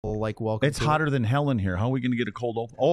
like welcome. It's hotter than hell in here. How are we going to get a cold open?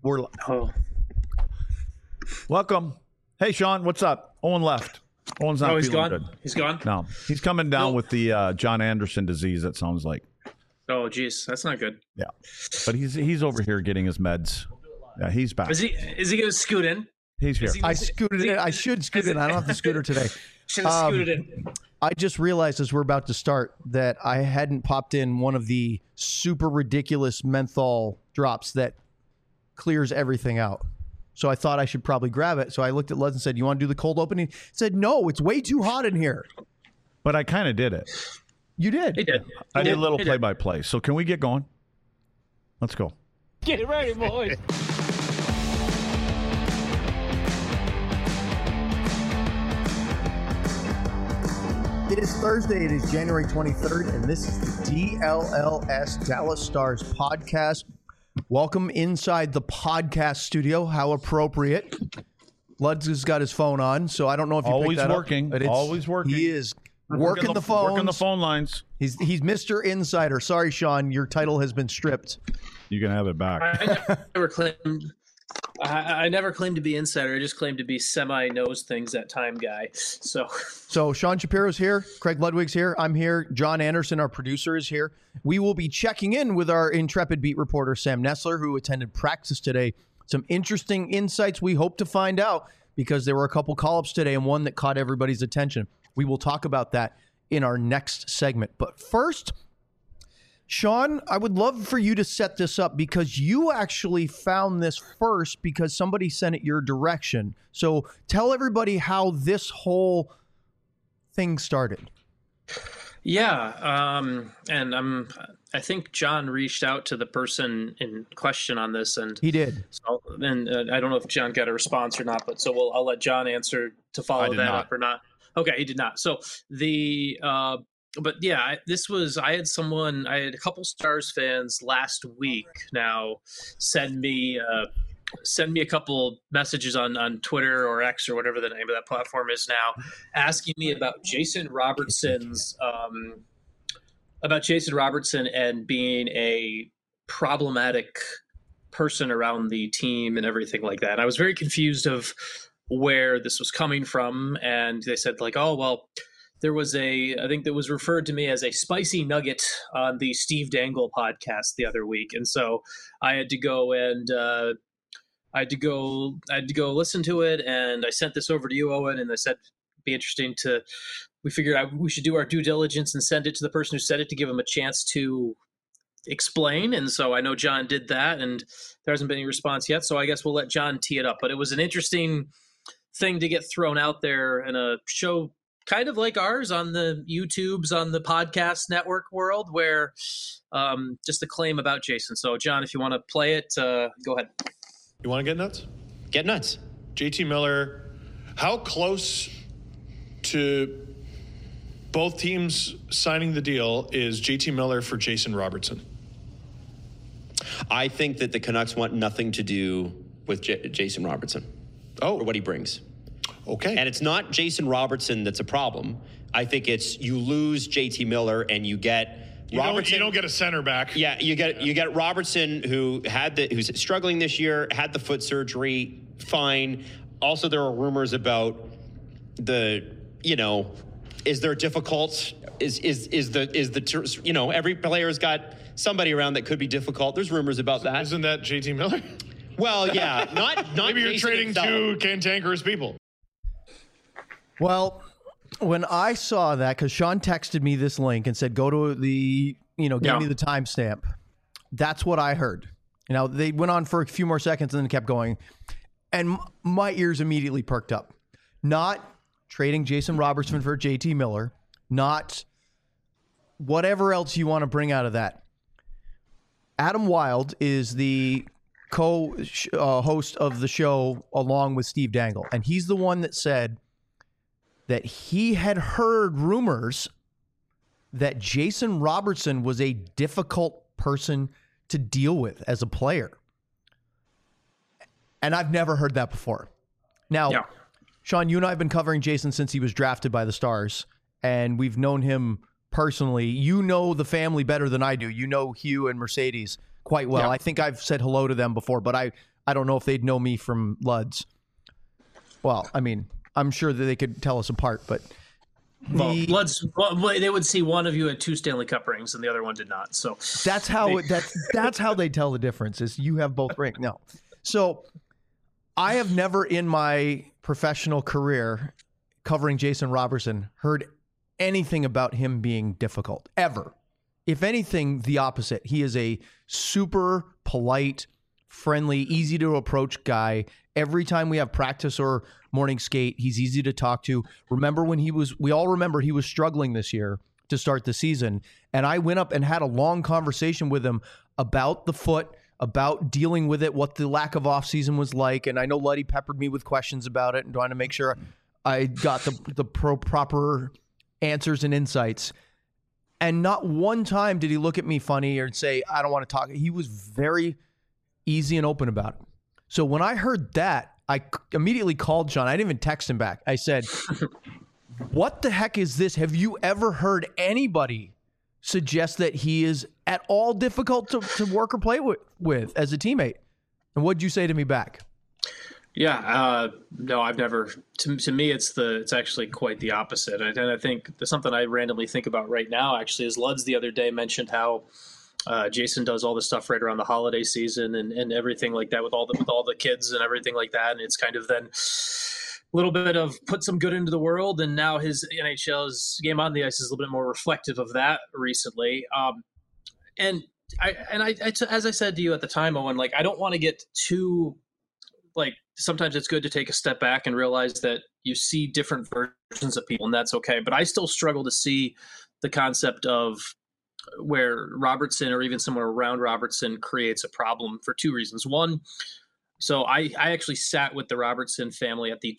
Welcome. Hey, Sean, what's up? Owen left. Owen's not he's feeling gone. good. He's gone. No, he's coming down with the John Anderson disease. It sounds like. Oh, geez, that's not good. Yeah, but he's over here getting his meds. Yeah, he's back. Is he going to scoot in? He's here. I scooted in. I should scoot in. I don't have the scooter today. Should have scooted in. I just realized as we're about to start that I hadn't popped in one of the super ridiculous menthol drops that clears everything out. So I thought I should probably grab it. So I looked at Luz and said, "You want to do the cold opening?" He said, "No, it's way too hot in here." But I kind of did it. You did. He did. I did a little play-by-play. So can we get going? Let's go. Get it ready, boys. It is Thursday. It is January 23rd, and this is the DLLS Dallas Stars podcast. Welcome inside the podcast studio. How appropriate. Lutz has got his phone on, so I don't know if you Always picked that working. up. But it's- Always working. He is working the phones. Working the phone lines. He's Mr. Insider. Sorry, Sean, your title has been stripped. You can have it back. I never claimed to be insider. I just claimed to be semi-knows things at time guy. So Sean Shapiro's here. Craig Ludwig's here. I'm here. John Anderson, our producer, is here. We will be checking in with our intrepid beat reporter, Sam Nessler, who attended practice today. Some interesting insights we hope to find out because there were a couple call-ups today and one that caught everybody's attention. We will talk about that in our next segment. But first, Sean, I would love for you to set this up because you actually found this first because somebody sent it your direction. So tell everybody how this whole thing started. yeah, and I think John reached out to the person in question on this, and He did. So, and I don't know if John got a response or not, but so I'll let John answer to follow that up or not. Okay, he did not. So but yeah, I had a couple Stars fans last week now send me a couple messages on Twitter or X or whatever the name of that platform is now, asking me about Jason Robertson and being a problematic person around the team and everything like that. And I was very confused of where this was coming from, and they said like, oh well, there was I think that was referred to me as a spicy nugget on the Steve Dangle podcast the other week, and so I had to go and I had to go listen to it, and I sent this over to you, Owen, and I said it'd be interesting to. We figured we should do our due diligence and send it to the person who said it to give him a chance to explain, and so I know John did that, and there hasn't been any response yet, so I guess we'll let John tee it up. But it was an interesting thing to get thrown out there in a show kind of like ours on the YouTubes, on the podcast network world, where just a claim about Jason. So, John, if you want to play it, go ahead. You want to get nuts? Get nuts. JT Miller, how close to both teams signing the deal is JT Miller for Jason Robertson? I think that the Canucks want nothing to do with Jason Robertson. Oh. Or what he brings. Okay. And it's not Jason Robertson that's a problem. I think it's you lose JT Miller and you get Robertson. You don't get a center back. Yeah, you get Robertson who's struggling this year, had the foot surgery, fine. Also, there are rumors about is there difficult? Every player's got somebody around that could be difficult. There's rumors about that. Isn't that JT Miller? Well, yeah, not Maybe you're Jason trading himself. two cantankerous people. Well, when I saw that, because Sean texted me this link and said, go to the, give me the timestamp. That's what I heard. They went on for a few more seconds and then kept going. And my ears immediately perked up. Not trading Jason Robertson for JT Miller. Not whatever else you want to bring out of that. Adam Wilde is the co-host of the show along with Steve Dangle. And he's the one that said that he had heard rumors that Jason Robertson was a difficult person to deal with as a player. And I've never heard that before. Now, Sean, you and I have been covering Jason since he was drafted by the Stars, and we've known him personally. You know the family better than I do. You know Hugh and Mercedes quite well. Yeah. I think I've said hello to them before, but I don't know if they'd know me from Luds. Well, I mean, I'm sure that they could tell us apart, but they would see one of you had 2 Stanley Cup rings and the other one did not. So that's how that's how they tell the difference is you have both rings. No. So I have never in my professional career covering Jason Robertson heard anything about him being difficult ever. If anything, the opposite. He is a super polite, friendly, easy to approach guy. Every time we have practice or morning skate, he's easy to talk to. Remember when we all remember he was struggling this year to start the season. And I went up and had a long conversation with him about the foot, about dealing with it, what the lack of offseason was like. And I know Luddy peppered me with questions about it and trying to make sure I got the proper answers and insights. And not one time did he look at me funny or say, I don't want to talk. He was very easy and open about it. So when I heard that, I immediately called Sean. I didn't even text him back. I said, what the heck is this? Have you ever heard anybody suggest that he is at all difficult to work or play with as a teammate? And what'd you say to me back? Yeah, no, I've never. To me, it's actually quite the opposite. And I think there's something I randomly think about right now. Actually, is Luds the other day mentioned how Jason does all the stuff right around the holiday season and everything like that with all the kids and everything like that. And it's kind of then a little bit of put some good into the world. And now his NHL's game on the ice is a little bit more reflective of that recently. And I as I said to you at the time, Owen, like I don't want to get too like. Sometimes it's good to take a step back and realize that you see different versions of people, and that's okay. But I still struggle to see the concept of where Robertson or even someone around Robertson creates a problem for 2 reasons. One, so I actually sat with the Robertson family at the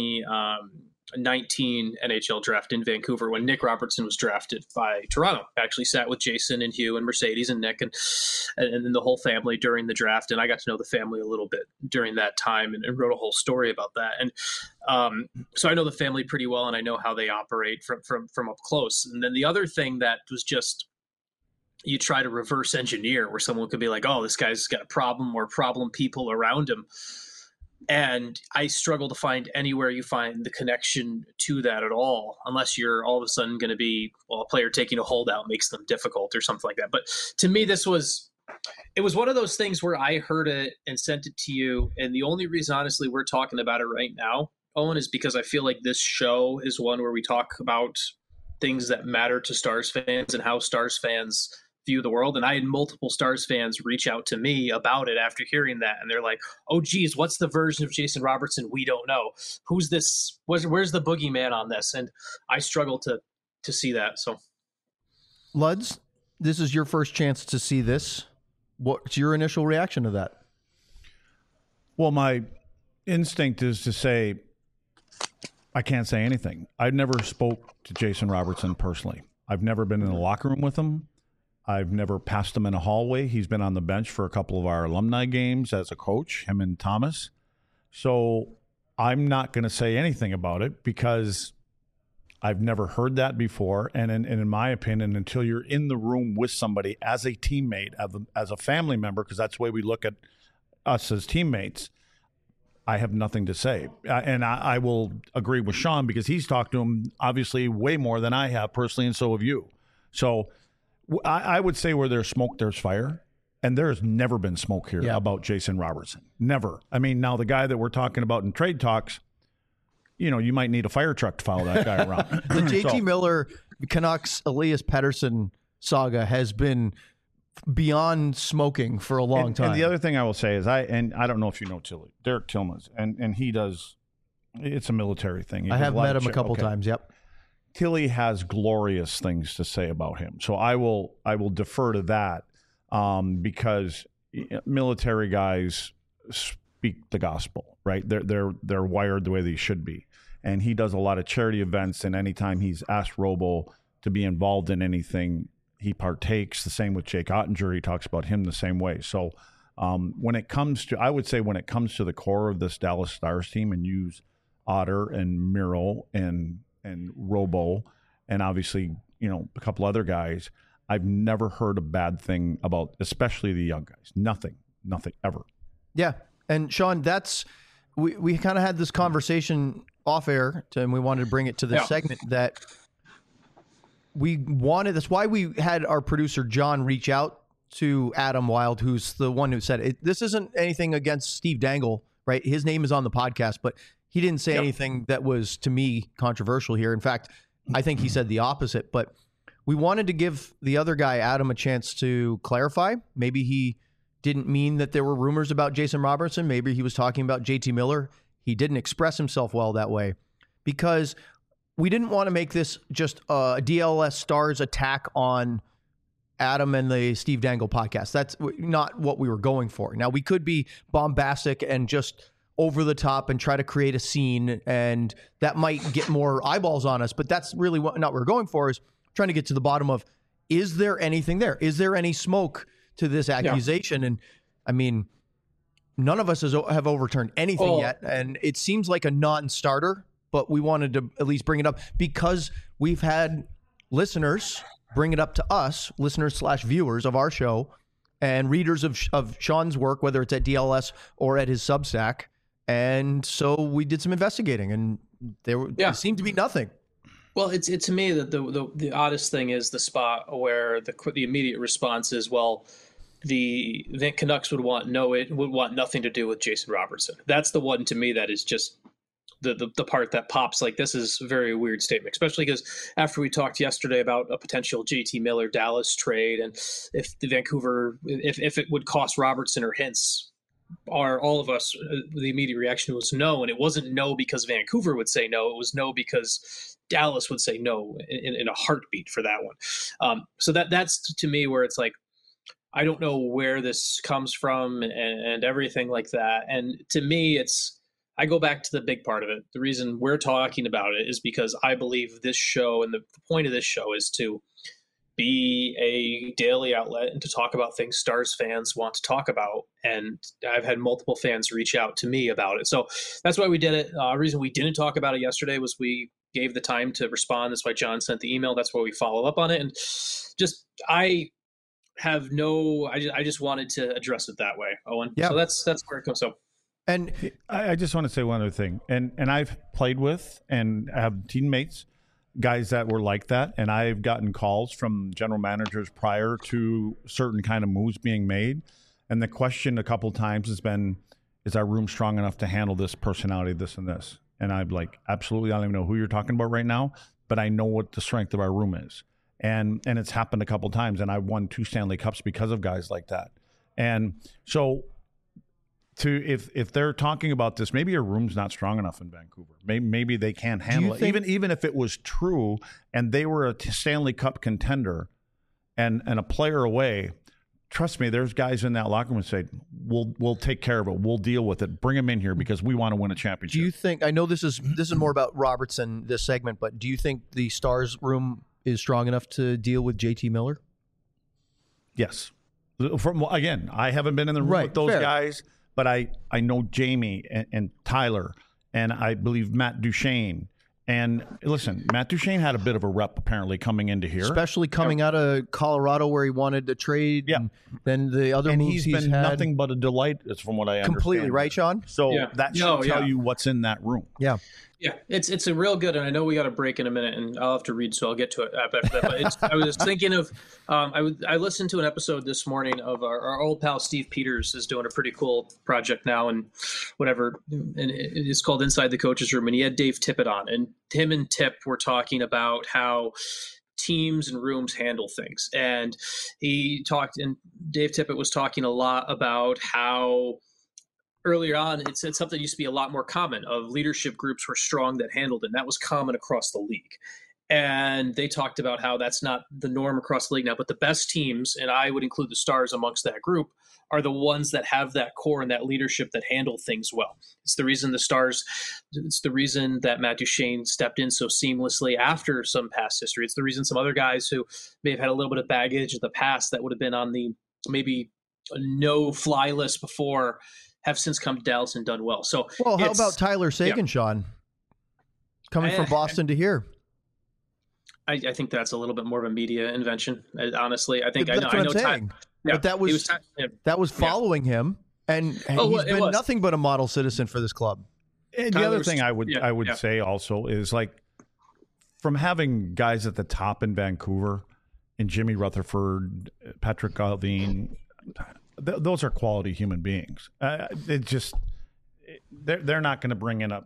2019 NHL draft in Vancouver when Nick Robertson was drafted by Toronto. I actually sat with Jason and Hugh and Mercedes and Nick and the whole family during the draft. And I got to know the family a little bit during that time and wrote a whole story about that. And so I know the family pretty well and I know how they operate from up close. And then the other thing that was just, you try to reverse engineer where someone could be like, oh, this guy's got a problem or problem people around him. And I struggle to find anywhere you find the connection to that at all, unless you're all of a sudden going to be, well, a player taking a holdout makes them difficult or something like that. But to me, it was one of those things where I heard it and sent it to you. And the only reason, honestly, we're talking about it right now, Owen, is because I feel like this show is one where we talk about things that matter to Stars fans and how Stars fans view the world. And I had multiple Stars fans reach out to me about it after hearing that. And they're like, oh, geez, what's the version of Jason Robertson we don't know? Who's this? Where's the boogeyman on this? And I struggle to see that. So, Luds, this is your first chance to see this. What's your initial reaction to that? Well, my instinct is to say, I can't say anything. I've never spoke to Jason Robertson personally. I've never been in the locker room with him. I've never passed him in a hallway. He's been on the bench for a couple of our alumni games as a coach, him and Thomas. So I'm not going to say anything about it because I've never heard that before. And in my opinion, until you're in the room with somebody as a teammate, as a family member, because that's the way we look at us as teammates, I have nothing to say. And I will agree with Sean because he's talked to him obviously way more than I have personally, and so have you. So I would say where there's smoke, there's fire. And there's never been smoke here about Jason Robertson. Never. I mean, now the guy that we're talking about in trade talks, you know, you might need a fire truck to follow that guy around. The JT Miller, Canucks, Elias Pettersson saga has been beyond smoking for a long time. And the other thing I will say is I don't know if you know Derek Tillmans, and he does, it's a military thing. I have met him a couple times, yep. Tilly has glorious things to say about him. So I will defer to that because military guys speak the gospel, right? They're wired the way they should be. And he does a lot of charity events, and anytime he's asked Robo to be involved in anything, he partakes. The same with Jake Ottinger. He talks about him the same way. So when it comes to the core of this Dallas Stars team and use Otter and Miro and Robo, and obviously a couple other guys, I've never heard a bad thing about, especially the young guys. Nothing ever. Yeah. And Sean, we kind of had this conversation off air, and we wanted to bring it to this segment that that's why we had our producer John reach out to Adam Wild, who's the one who said it. This isn't anything against Steve Dangle, right? His name is on the podcast, but he didn't say anything that was, to me, controversial here. In fact, I think he said the opposite, but we wanted to give the other guy, Adam, a chance to clarify. Maybe he didn't mean that there were rumors about Jason Robertson. Maybe he was talking about JT Miller. He didn't express himself well that way, because we didn't want to make this just a DLS Stars attack on Adam and the Steve Dangle podcast. That's not what we were going for. Now, we could be bombastic and just over the top and try to create a scene, and that might get more eyeballs on us, but that's really not what we're going for, is trying to get to the bottom of, is there anything there? Is there any smoke to this accusation? Yeah. And I mean, none of us have overturned anything yet, and it seems like a non-starter, but we wanted to at least bring it up because we've had listeners bring it up to us, listeners/viewers of our show and readers of Sean's work, whether it's at DLS or at his Substack. And so we did some investigating, and there seemed to be nothing. Well, it's to me that the oddest thing is the spot where the immediate response is, well, the Canucks would want nothing to do with Jason Robertson. That's the one to me that is just the part that pops. Like, this is a very weird statement, especially because after we talked yesterday about a potential JT Miller Dallas trade, and if the Vancouver, if it would cost Robertson or Hintz, all of us, the immediate reaction was no. And it wasn't no because Vancouver would say no. It was no because Dallas would say no in a heartbeat for that one. So that's to me where it's like, I don't know where this comes from and everything like that. And to me, I go back to the big part of it. The reason we're talking about it is because I believe this show, and the point of this show is to be a daily outlet and to talk about things Stars fans want to talk about. And I've had multiple fans reach out to me about it. So that's why we did it. The reason we didn't talk about it yesterday was we gave the time to respond. That's why John sent the email. That's why we follow up on it. And I just wanted to address it that way, Owen. Yeah. So that's where it goes. So. And I just want to say one other thing. And I've played with and have teammates, guys that were like that. And I've gotten calls from general managers prior to certain kind of moves being made. And the question a couple of times has been, is our room strong enough to handle this personality, this and this? And I'm like, absolutely. I don't even know who you're talking about right now, but I know what the strength of our room is. And it's happened a couple of times. And I've won 2 Stanley Cups because of guys like that. And so if they're talking about this, maybe your room's not strong enough in Vancouver. Maybe they can't handle it. Even if it was true and they were a Stanley Cup contender and a player away, trust me, there's guys in that locker room who say, we'll take care of it. We'll deal with it. Bring them in here because we want to win a championship. Do you think, I know this is more about Robertson, this segment, but do you think the Stars room is strong enough to deal with JT Miller? Yes. Again, I haven't been in the room with those guys. But I know Jamie and Tyler, and I believe Matt Duchene. And listen, Matt Duchene had a bit of a rep apparently coming into here. Especially coming out of Colorado where he wanted to trade. Yeah. And then the other moves he's been nothing but a delight, from what I understand. Completely, right, Sean? So that should tell you what's in that room. Yeah. Yeah, it's a real good, and I know we got a break in a minute, and I'll have to read, so I'll get to it after that. But I was thinking of, I listened to an episode this morning of our old pal Steve Peters is doing a pretty cool project now, and whatever, and it's called Inside the Coaches Room, and he had Dave Tippett on, and him and Tip were talking about how teams and rooms handle things, and Dave Tippett was talking a lot about how earlier on, it said something used to be a lot more common of leadership groups were strong that handled it. And that was common across the league. And they talked about how that's not the norm across the league now, but the best teams, and I would include the Stars amongst that group, are the ones that have that core and that leadership that handle things well. It's the reason it's the reason that Matt Duchene stepped in so seamlessly after some past history. It's the reason some other guys who may have had a little bit of baggage in the past that would have been on the maybe no-fly list before have since come to Dallas and done well. So, how about Tyler Seguin, Sean? Coming from Boston to here. I think that's a little bit more of a media invention. Honestly, I think That's what I'm saying. But that was following him, and he's been nothing but a model citizen for this club. And the other thing I would say also is, like, from having guys at the top in Vancouver and Jimmy Rutherford, Patrick Galvin, those are quality human beings. They're not going to bring in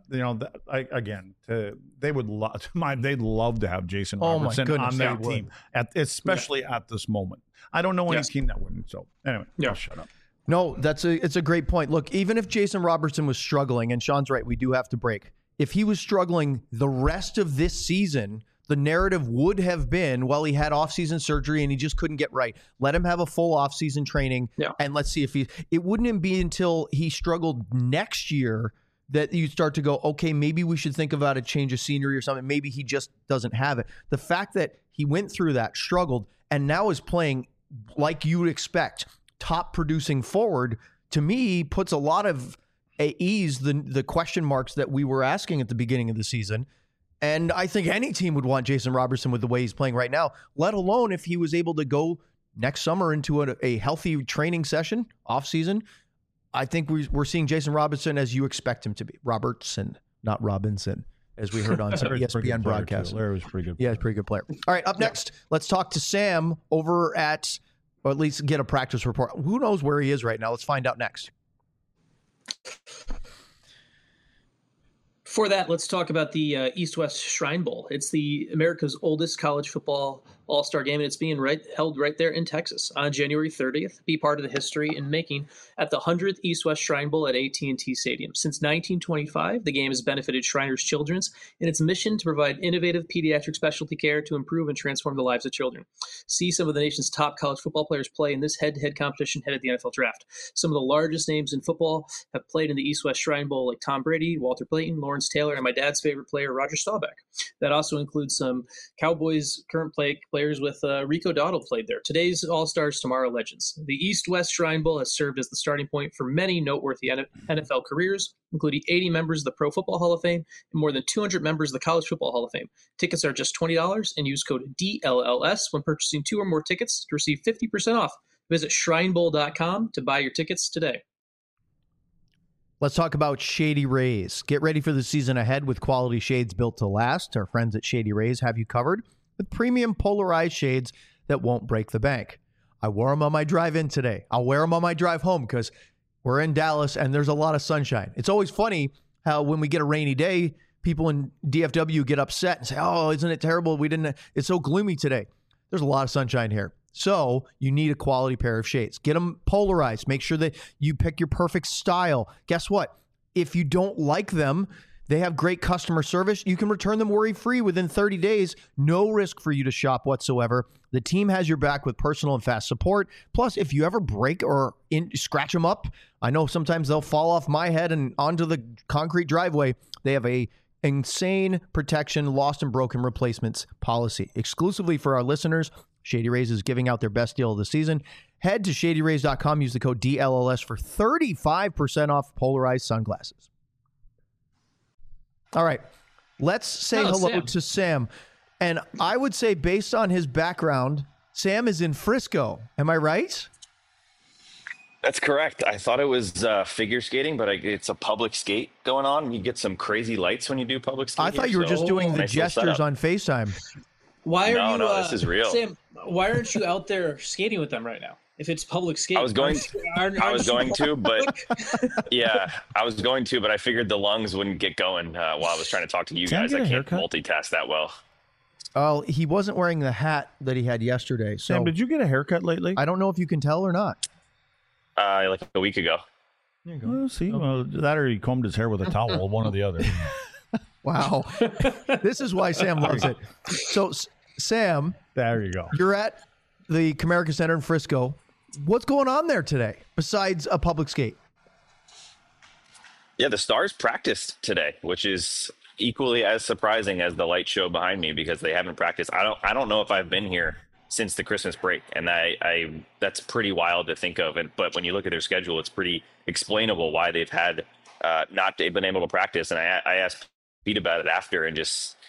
they'd love to have Jason Robertson on their team, especially at this moment. I don't know any team that wouldn't. So anyway, I'll shut up. No, it's a great point. Look, even if Jason Robertson was struggling, and Sean's right, we do have to break. If he was struggling the rest of this season, the narrative would have been, well, he had offseason surgery and he just couldn't get right. Let him have a full offseason training, and let's see if it wouldn't be until he struggled next year that you start to go, okay, maybe we should think about a change of scenery or something. Maybe he just doesn't have it. The fact that he went through that, struggled, and now is playing like you would expect, top producing forward, to me puts a lot of ease the question marks that we were asking at the beginning of the season. And I think any team would want Jason Robertson with the way he's playing right now, let alone if he was able to go next summer into a healthy training session off season. I think we're seeing Jason Robertson as you expect him to be. Robertson, not Robinson, as we heard on some ESPN broadcast. Larry was pretty good. Yeah, he's a pretty good player. All right, up next, let's talk to Sam over at, or at least get a practice report. Who knows where he is right now? Let's find out next. For that, let's talk about the East-West Shrine Bowl. It's the America's oldest college football all-star game, and it's being held right there in Texas on January 30th. Be part of the history in making at the 100th East-West Shrine Bowl at AT&T Stadium. Since 1925, the game has benefited Shriners Children's in its mission to provide innovative pediatric specialty care to improve and transform the lives of children. See some of the nation's top college football players play in this head-to-head competition ahead of the NFL Draft. Some of the largest names in football have played in the East-West Shrine Bowl, like Tom Brady, Walter Payton, Lawrence Taylor, and my dad's favorite player, Roger Staubach. That also includes some Cowboys current players with Rico Dowdle played there. Today's All-Stars, tomorrow legends. The East-West Shrine Bowl has served as the starting point for many noteworthy NFL careers, including 80 members of the Pro Football Hall of Fame and more than 200 members of the College Football Hall of Fame. Tickets are just $20 and use code DLLS when purchasing 2 or more tickets to receive 50% off. Visit shrinebowl.com to buy your tickets today. Let's talk about Shady Rays. Get ready for the season ahead with quality shades built to last. Our friends at Shady Rays have you covered with premium polarized shades that won't break the bank. I wore them on my drive in today. I'll wear them on my drive home because we're in Dallas and there's a lot of sunshine. It's always funny how when we get a rainy day, people in DFW get upset and say, oh, isn't it terrible? It's so gloomy today. There's a lot of sunshine here. So you need a quality pair of shades. Get them polarized. Make sure that you pick your perfect style. Guess what? If you don't like them, they have great customer service. You can return them worry-free within 30 days. No risk for you to shop whatsoever. The team has your back with personal and fast support. Plus, if you ever break or scratch them up, I know sometimes they'll fall off my head and onto the concrete driveway. They have a insane protection, lost and broken replacements policy. Exclusively for our listeners, Shady Rays is giving out their best deal of the season. Head to shadyrays.com. Use the code DLLS for 35% off polarized sunglasses. All right. Let's say hello to Sam. And I would say, based on his background, Sam is in Frisco. Am I right? That's correct. I thought it was figure skating, but it's a public skate going on. You get some crazy lights when you do public skate. I thought you were just doing the gestures on FaceTime. Why are you? No, this is real. Sam, why aren't you out there skating with them right now? If it's public skating, I was going to, but yeah, I was going to, but I figured the lungs wouldn't get going while I was trying to talk to you guys. I can't multitask that well. Oh, he wasn't wearing the hat that he had yesterday. So, Sam, did you get a haircut lately? I don't know if you can tell or not. Like a week ago. There you go. Well, see, well, that or he combed his hair with a towel, one or the other. Wow. This is why Sam loves it. So, Sam. There you go. You're at the Comerica Center in Frisco. What's going on there today besides a public skate? Yeah, the Stars practiced today, which is equally as surprising as the light show behind me because they haven't practiced. I don't know if I've been here since the Christmas break, and I that's pretty wild to think of. But when you look at their schedule, it's pretty explainable why they've had not been able to practice. And I asked Pete about it after, and just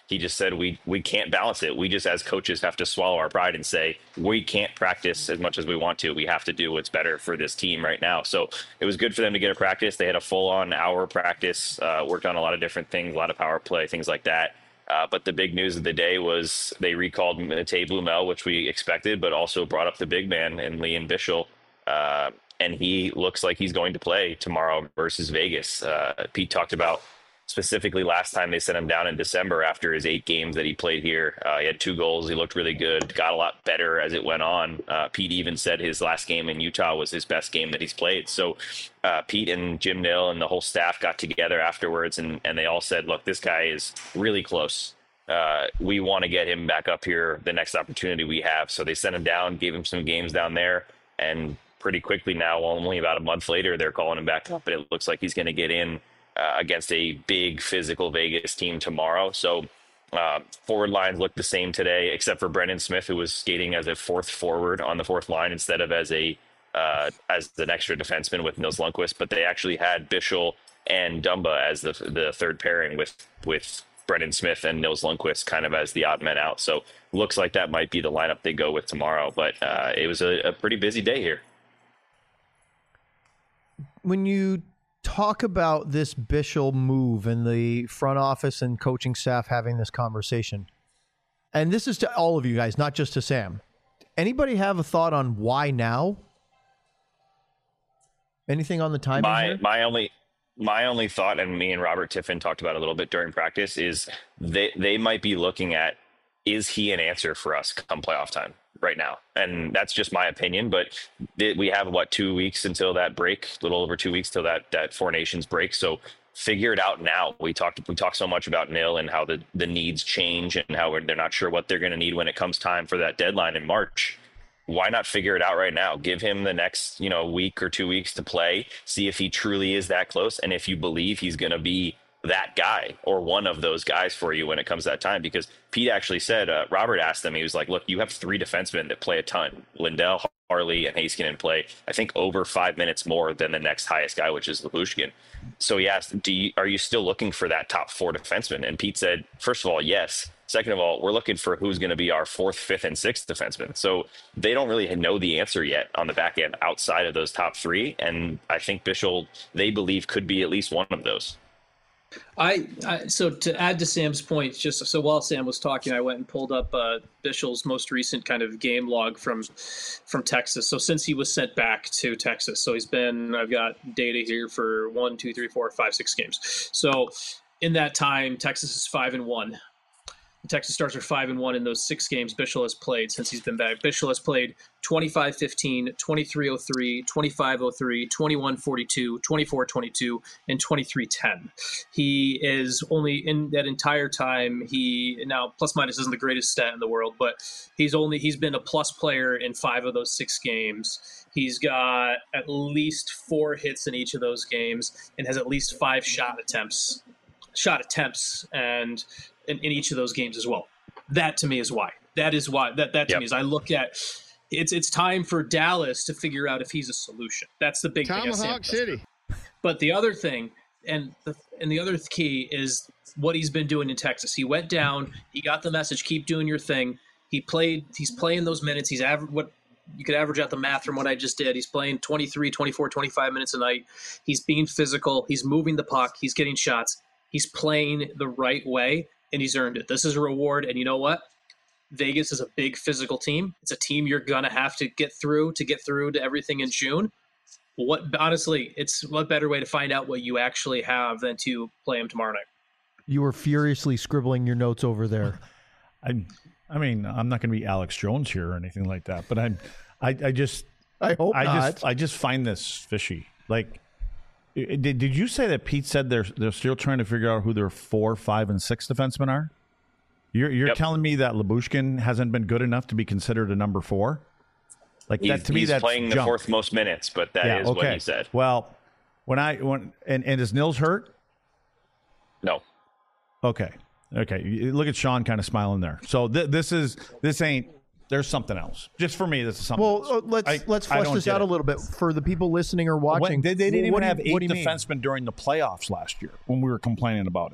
He just said we can't balance it. We just, as coaches, have to swallow our pride and say we can't practice as much as we want to. We have to do what's better for this team right now. So it was good for them to get a practice. They had a full-on hour practice, worked on a lot of different things, a lot of power play, things like that. But the big news of the day was they recalled Matej Blumel, which we expected, but also brought up the big man in Lian Bichsel. And he looks like he's going to play tomorrow versus Vegas. Pete talked about specifically last time they sent him down in December after his 8 games that he played here. He had 2 goals. He looked really good, got a lot better as it went on. Pete even said his last game in Utah was his best game that he's played. So Pete and Jim Nill and the whole staff got together afterwards, and they all said, look, this guy is really close. We want to get him back up here the next opportunity we have. So they sent him down, gave him some games down there, and pretty quickly now, only about a month later, they're calling him back up, but it looks like he's going to get in against a big physical Vegas team tomorrow. So forward lines look the same today, except for Brendan Smith, who was skating as a 4th forward on the 4th line instead of as an extra defenseman with Nils Lundkvist. But they actually had Bichsel and Dumba as the 3rd pairing with Brendan Smith and Nils Lundkvist kind of as the odd men out. So looks like that might be the lineup they go with tomorrow. But it was a pretty busy day here. When you talk about this Bichsel move and the front office and coaching staff having this conversation, and this is to all of you guys, not just to Sam, anybody have a thought on why now? Anything on the timing here? My only thought, and me and Robert Tiffin talked about it a little bit during practice, is they might be looking at, is he an answer for us come playoff time right now? And that's just my opinion, but we have 2 weeks until that break, a little over 2 weeks till that Four Nations break. So figure it out now. We talked so much about Nil and how the needs change and how they're not sure what they're going to need when it comes time for that deadline in March. Why not figure it out right now? Give him the next, week or 2 weeks to play, see if he truly is that close. And if you believe he's going to be that guy or one of those guys for you when it comes to that time, because Pete actually said, Robert asked him, he was like, look, you have 3 defensemen that play a ton. Lindell, Harley, and Heiskanen play, I think, over 5 minutes more than the next highest guy, which is Lyubushkin. So he asked, are you still looking for that top 4 defenseman? And Pete said, first of all, yes. Second of all, we're looking for who's going to be our 4th, 5th, and 6th defenseman. So they don't really know the answer yet on the back end outside of those top 3. And I think Bichsel, they believe, could be at least one of those. So to add to Sam's point, just so while Sam was talking, I went and pulled up Bichel's most recent kind of game log from Texas. So since he was sent back to Texas, so I've got data here for 1, 2, 3, 4, 5, 6 games. So in that time, Texas is 5-1. The Texas Stars are 5-1 in those 6 games Bichsel has played since he's been back. Bichsel has played 25-15, 23-03, 25-03, 21-42, 24-22, and 23-10. He is only in that entire time. Now plus minus isn't the greatest stat in the world, but he's been a plus player in 5 of those 6 games. He's got at least 4 hits in each of those games and has at least 5 shot attempts and in each of those games as well. That to me is why. That to me is, I look at it's time for Dallas to figure out if he's a solution. That's the big thing. Tomahawk City. But the other thing, and the other key is what he's been doing in Texas. He went down. He got the message. Keep doing your thing. He's playing those minutes. He's what you could average out the math from what I just did. He's playing 23, 24, 25 minutes a night. He's being physical. He's moving the puck. He's getting shots. He's playing the right way, and he's earned it. This is a reward, and you know what? Vegas is a big physical team. It's a team you're going to have to get through to everything in June. Honestly, it's what better way to find out what you actually have than to play him tomorrow night. You were furiously scribbling your notes over there. I mean, I'm not going to be Alex Jones here or anything like that, but I just find this fishy. Like, did you say that Pete said they're still trying to figure out who their 4, 5, and 6 defensemen are? You're telling me that Lyubushkin hasn't been good enough to be considered a number 4? Like that to me, that's playing the 4th most minutes, but that is okay. what he said. Well, and is Nils hurt? No. Okay. Look at Sean kind of smiling there. So this ain't. There's something else. Just for me, this is something else. Well, let's flesh this out a little bit for the people listening or watching. They didn't even have 8 defensemen during the playoffs last year when we were complaining about it.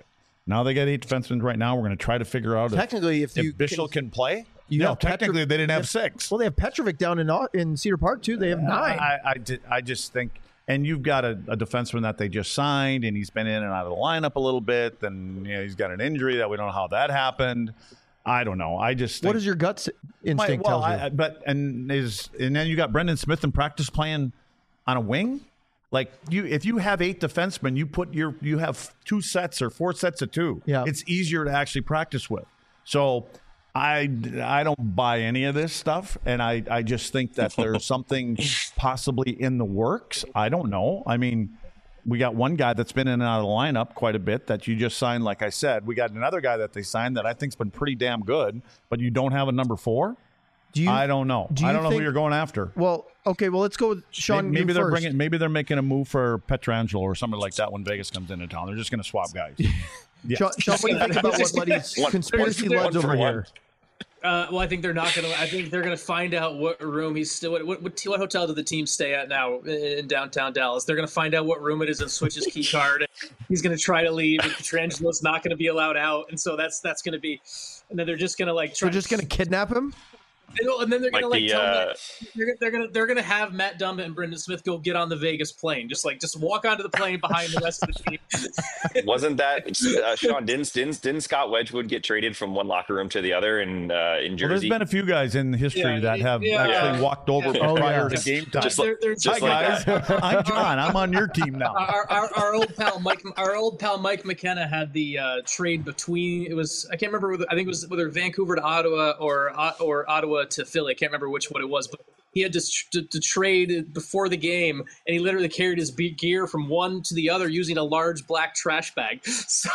Now they got 8 defensemen right now. We're going to try to figure out Technically, if Bishop can play. You No, have technically they didn't have 6. Well, they have Petrovic down in Cedar Park too. They have 9. I just think, and you've got a defenseman that they just signed, and he's been in and out of the lineup a little bit. Then he's got an injury that we don't know how that happened. I don't know. I just think, what does your gut instinct tell you? And then you got Brendan Smith in practice playing on a wing. Like if you have 8 defensemen, you have 2 sets or 4 sets of 2. Yeah. It's easier to actually practice with. So I don't buy any of this stuff, and I just think that there's something possibly in the works. I don't know. I mean, we got one guy that's been in and out of the lineup quite a bit that you just signed, like I said. We got another guy that they signed that I think's been pretty damn good, but you don't have a number 4? I don't know. I don't know who you're going after. Well, okay. Well, let's go with Sean. Maybe they're making a move for Petrangelo or something like that when Vegas comes into town. They're just going to swap guys. Yeah. Sean, what do you think about what Luddy's conspiracy Luds over here? Well, I think they're not going to. I think they're going to find out what room he's still. What hotel do the team stay at now in downtown Dallas? They're going to find out what room it is and switch his key card. He's going to try to leave. And Petrangelo's not going to be allowed out, and so that's going to be. And then they're just going to They're just going to kidnap him. And then they're gonna they're gonna have Matt Dumba and Brendan Smith go get on the Vegas plane, just walk onto the plane behind the rest of the team. Wasn't that Sean? Didn't Scott Wedgwood get traded from one locker room to the other in Jersey? Well, there's been a few guys in history that have actually walked over prior to game time. Hi guys, I'm John. I'm on your team now. Our old pal Mike McKenna had the trade between I can't remember I think it was whether Vancouver to Ottawa or Ottawa to Philly. I can't remember which one it was, but he had to trade before the game, and he literally carried his gear from one to the other using a large black trash bag. So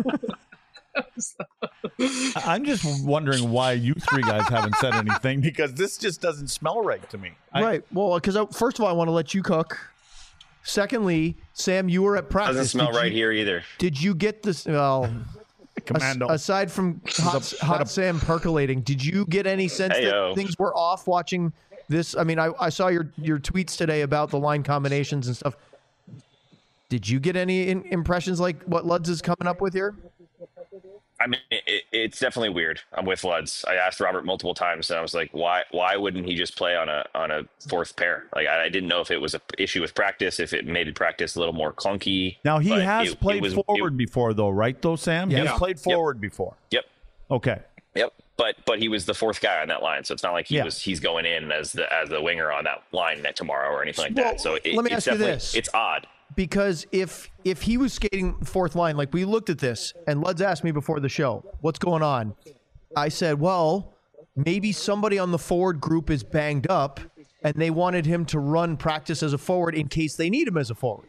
I'm just wondering why you 3 guys haven't said anything, because this just doesn't smell right to me. Right. Well, because first of all, I want to let you cook. Secondly, Sam, you were at practice. Doesn't smell right here either. Did you get this? Well, Commando. Aside from hot Sam percolating, did you get any sense that things were off watching this? I mean, I saw your tweets today about the line combinations and stuff. Did you get any impressions like what Luds is coming up with here? I mean, it's definitely weird. I'm with Luds. I asked Robert multiple times, and I was like, why wouldn't he just play on a fourth pair? Like, I didn't know if it was an issue with practice, if it made practice a little more clunky. Now, he has played forward before, though, right, though, Sam? Yeah. He has played forward before. Yep. Okay. Yep. But he was the 4th guy on that line, so it's not like he's going in as the winger on that line tomorrow or anything like that. So let me ask you this. It's odd. Because if he was skating 4th line, like we looked at this, and Luds asked me before the show, what's going on? I said, well, maybe somebody on the forward group is banged up, and they wanted him to run practice as a forward in case they need him as a forward.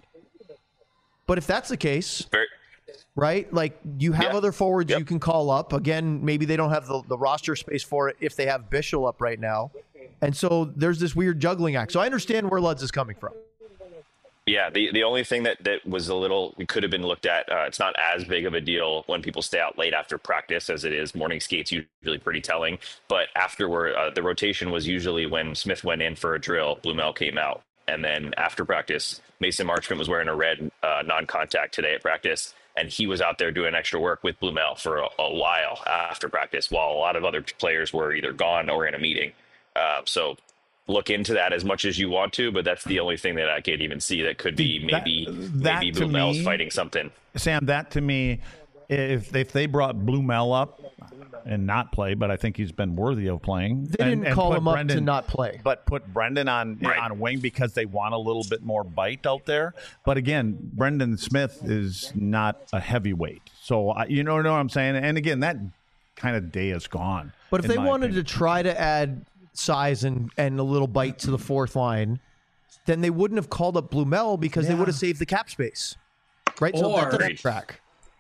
But if that's the case, right, like you have other forwards you can call up. Again, maybe they don't have the roster space for it if they have Bischel up right now. And so there's this weird juggling act. So I understand where Luds is coming from. Yeah, the only thing that was a little, we could have been looked at, it's not as big of a deal when people stay out late after practice as it is. Morning skate's usually pretty telling. But afterward, the rotation was usually when Smith went in for a drill, Blumel came out. And then after practice, Mason Marchment was wearing a red non-contact today at practice. And he was out there doing extra work with Blumel for a while after practice, while a lot of other players were either gone or in a meeting. So look into that as much as you want to, but that's the only thing that I could even see that could be maybe Blumel's fighting something. Sam, that to me, if they brought Blumel up and not play, but I think he's been worthy of playing. They didn't call him up to not play. But put Brendan on a wing because they want a little bit more bite out there. But again, Brendan Smith is not a heavyweight. So, you know what I'm saying? And again, that kind of day is gone. But if they wanted to try to add size and a little bite to the 4th line, then they wouldn't have called up Blumel because they would have saved the cap space, right? So that's a track.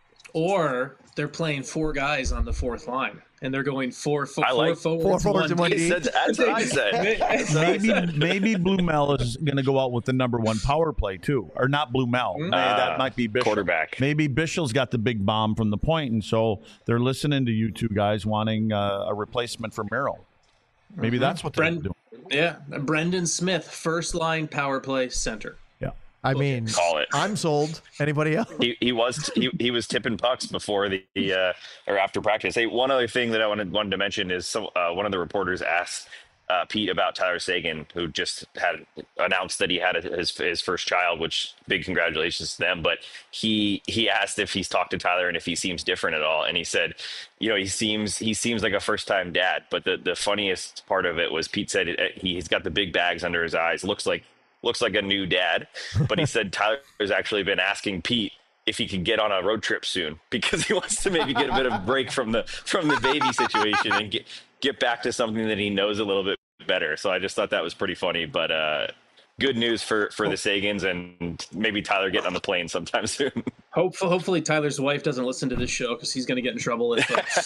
Or they're playing 4 guys on the 4th line, and they're going four forwards and one D. That's what I said. Maybe Blumel is going to go out with the number 1 power play too, or not Blumel. That might be Bischel. Quarterback. Maybe Bischel's got the big bomb from the point, and so they're listening to you 2 guys wanting a replacement for Merrill. Maybe that's what they're doing. Yeah, Brendan Smith, 1st line power play center. Yeah. I mean, Call it. I'm sold. Anybody else? He was tipping pucks before the or after practice. Hey, one other thing that I wanted to mention is one of the reporters asked Pete about Tyler Seguin, who just had announced that he had his first child, which big congratulations to them. But he asked if he's talked to Tyler and if he seems different at all, and he said, he seems like a first time dad. But the funniest part of it was Pete said he's got the big bags under his eyes, looks like a new dad. But he said Tyler's actually been asking Pete if he could get on a road trip soon because he wants to maybe get a bit of a break from the baby situation and get back to something that he knows a little bit better. So I just thought that was pretty funny. But good news for the Sagans, and maybe Tyler getting on the plane sometime soon. Hopefully Tyler's wife doesn't listen to this show because he's going to get in trouble.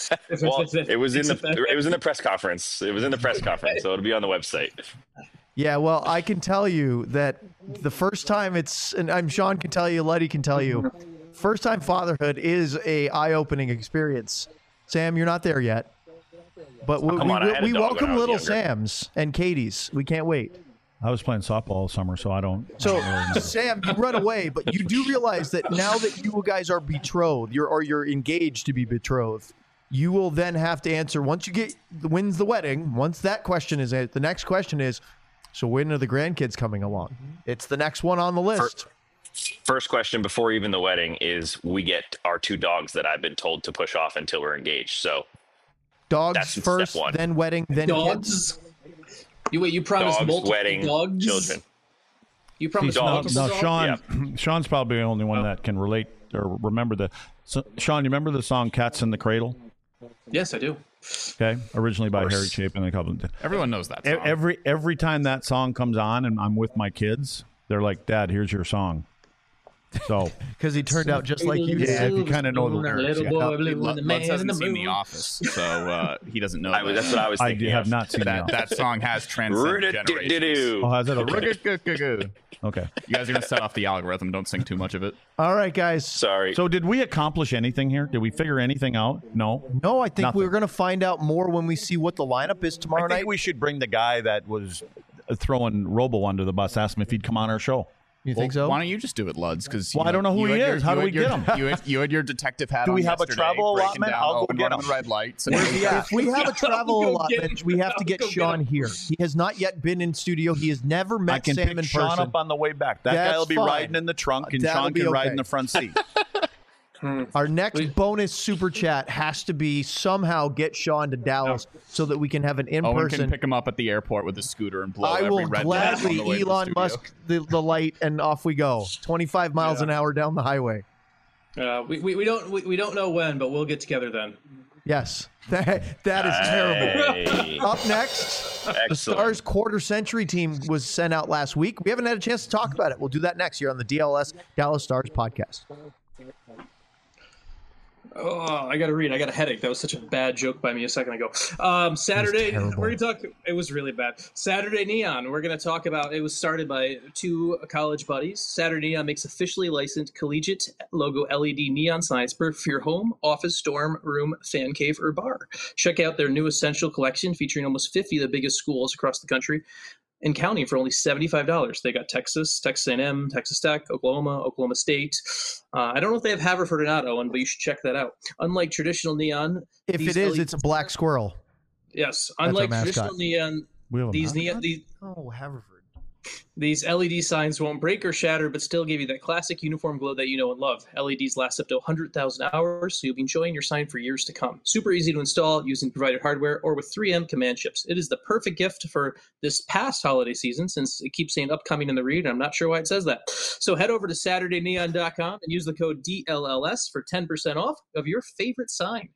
It was in the press conference. It was in the press conference, so it'll be on the website. Yeah, well, I can tell you that the first time and Sean can tell you, Letty can tell you, first time fatherhood is a eye-opening experience. Sam, you're not there yet, but we welcome little Sams and Katie's. We can't wait. I was playing softball all summer, so I don't. So, Sam, you run away, but you do realize that now that you guys are betrothed, you're engaged to be betrothed, you will then have to answer once you when's the wedding. Once that question is the next question is, so when are the grandkids coming along? It's the next one on the list. First question before even the wedding is we get our 2 dogs that I've been told to push off until we're engaged. So dogs first, then wedding, then dogs. Kids. You promised dogs, multiple wedding, dogs? children. You promised multiple dogs? Sean. Sean's probably the only one that can relate or remember Sean, you remember the song "Cats in the Cradle"? Yes, I do. Okay, originally by Harry Chapin and a couple. Everyone knows that song. Every time that song comes on and I'm with my kids, they're like, "Dad, here's your song." So because he turned out just like you did. Yeah, you kind of know the lyrics. Lutz hasn't seen The Office, so he doesn't know. That's what I was thinking. I have not seen that. That song has transcended generations. Oh, has it? Okay. Okay. You guys are going to set off the algorithm. Don't sing too much of it. All right, guys. Sorry. So did we accomplish anything here? Did we figure anything out? No. No, I think Nothing. we're going to find out more when we see what the lineup is tomorrow night. I think we should bring the guy that was throwing Robo under the bus, ask him if he'd come on our show. You think so? Why don't you just do it, Luds? Because I don't know who he is. How do we get him? You had your detective hat on. Do we have a travel allotment? I'll go get him. Red lights. If we have a travel allotment, we have to get Sean here. He has not yet been in studio. He has never met Sam in person. I can pick Sean up on the way back. That guy will be riding in the trunk, and Sean can ride in the front seat. Our next bonus super chat has to be somehow get Sean to Dallas so that we can have an in-person. Owen can pick him up at the airport with a scooter and blow every red light on the way to the studio. Elon Musk the light, and off we go. 25 miles an hour down the highway. We don't know when, but we'll get together then. Yes, that is terrible. Up next, the Stars quarter century team was sent out last week. We haven't had a chance to talk about it. We'll do that next year on the DLS Dallas Stars podcast. Oh, I got to read. I got a headache. That was such a bad joke by me a second ago. Saturday, we're going to talk. It was really bad. Saturday Neon. We're going to talk about. It was started by 2 college buddies. Saturday Neon makes officially licensed collegiate logo LED neon signs for your home, office, dorm room, fan cave, or bar. Check out their new essential collection featuring almost 50 of the biggest schools across the country and counting for only $75. They got Texas A&M, Texas Tech, Oklahoma State. I don't know if they have Haverford or not, Owen, but you should check that out. Unlike traditional neon, if it is, it's a black squirrel. Yes, unlike traditional neon, Haverford. These LED signs won't break or shatter, but still give you that classic uniform glow that you know and love. LEDs last up to 100,000 hours, so you'll be enjoying your sign for years to come. Super easy to install using provided hardware or with 3M command chips. It is the perfect gift for this past holiday season, since it keeps saying upcoming in the read. I'm not sure why it says that. So head over to SaturdayNeon.com and use the code DLLS for 10% off of your favorite sign.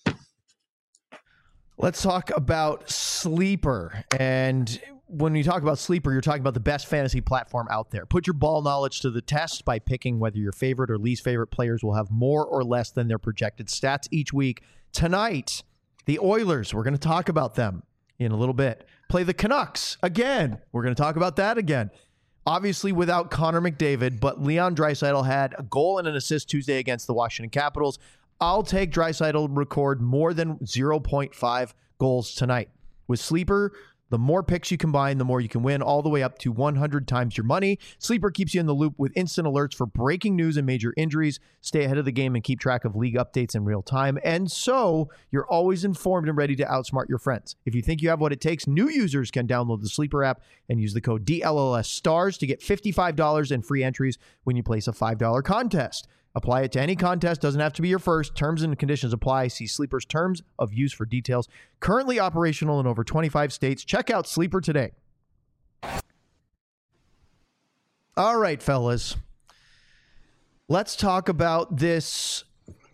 Let's talk about Sleeper. And when you talk about Sleeper, you're talking about the best fantasy platform out there. Put your ball knowledge to the test by picking whether your favorite or least favorite players will have more or less than their projected stats each week. Tonight, the Oilers, we're going to talk about them in a little bit. Play the Canucks again. We're going to talk about that again. Obviously without Connor McDavid, but Leon Draisaitl had a goal and an assist Tuesday against the Washington Capitals. I'll take Draisaitl record more than 0.5 goals tonight. With Sleeper, The more picks you combine, the more you can win, all the way up to 100 times your money. Sleeper keeps you in the loop with instant alerts for breaking news and major injuries. Stay ahead of the game and keep track of league updates in real time. And so you're always informed and ready to outsmart your friends. If you think you have what it takes, new users can download the Sleeper app and use the code DLLSSTARS to get $55 in free entries when you place a $5 contest. Apply it to any contest. Doesn't have to be your first. Terms and conditions apply. See Sleeper's terms of use for details. Currently operational in over 25 states. Check out Sleeper today. All right, fellas. Let's talk about this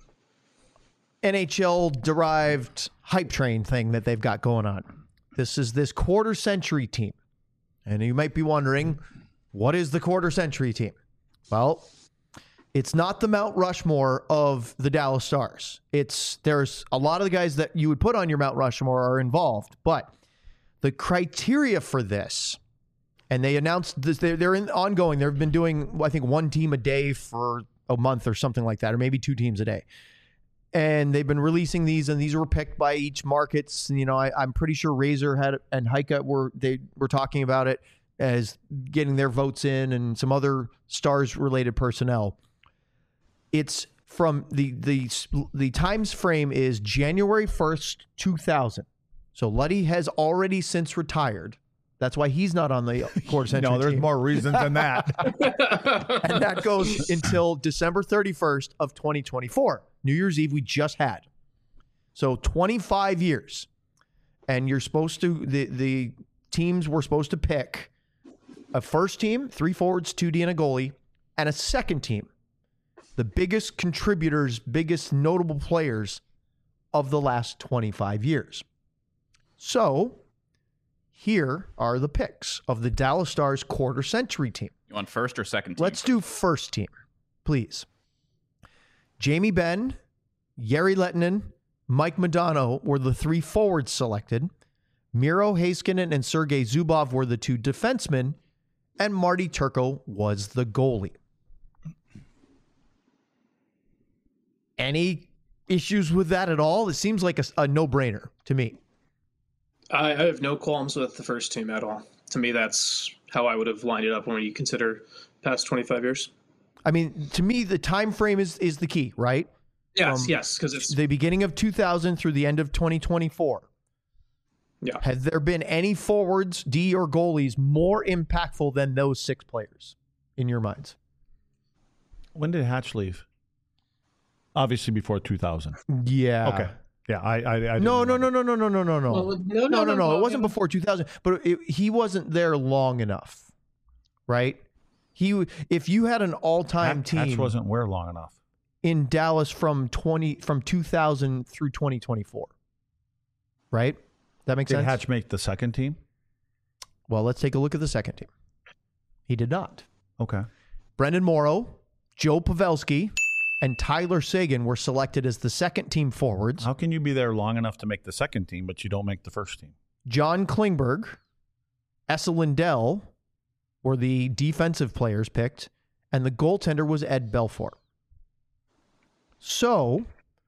NHL-derived hype train thing that they've got going on. This is this quarter century team. And you might be wondering, what is the quarter century team? Well, it's not the Mount Rushmore of the Dallas Stars. There's a lot of the guys that you would put on your Mount Rushmore are involved, but the criteria for this, and they announced this, they're ongoing. They've been doing, I think, one team a day for a month or something like that, or maybe two teams a day. And they've been releasing these, and these were picked by each markets. You know, I'm pretty sure Razor and Heika were talking about it as getting their votes in, and some other Stars-related personnel. It's from the times frame is January 1st, 2000. So Luddy has already since retired. That's why he's not on the quarter century No, there's team. more reasons than that. And that goes until December 31st of 2024. New Year's Eve we just had. So 25 years. And you're supposed to, the teams were supposed to pick a first team, 3 forwards, 2D, and a goalie, and a second team. The biggest contributors, biggest notable players of the last 25 years. So here are the picks of the Dallas Stars quarter century team. You want first or second team? Let's do first team, please. Jamie Benn, Jere Lehtinen, Mike Modano were the 3 forwards selected. Miro Heiskanen and Sergei Zubov were the 2 defensemen, and Marty Turco was the goalie. Any issues with that at all? It seems like a no-brainer to me. I have no qualms with the first team at all. To me, that's how I would have lined it up when you consider past 25 years. I mean, to me, the time frame is the key, right? Yes, because it's the beginning of 2000 through the end of 2024. Yeah. Has there been any forwards, D or goalies, more impactful than those 6 players in your minds? When did Hatch leave? Obviously before 2000. Yeah. Okay. Yeah. I No. Well, No. It wasn't before 2000, but he wasn't there long enough, right? If you had an all-time team, Hatch wasn't where long enough in Dallas from 2000 through 2024, right? That makes sense. Did Hatch make the second team? Well, let's take a look at the second team. He did not. Okay. Brendan Morrow, Joe Pavelski, and Tyler Seguin were selected as the second team forwards. How can you be there long enough to make the second team, but you don't make the first team? John Klingberg, Esa Lindell were the defensive players picked, and the goaltender was Ed Belfour. So,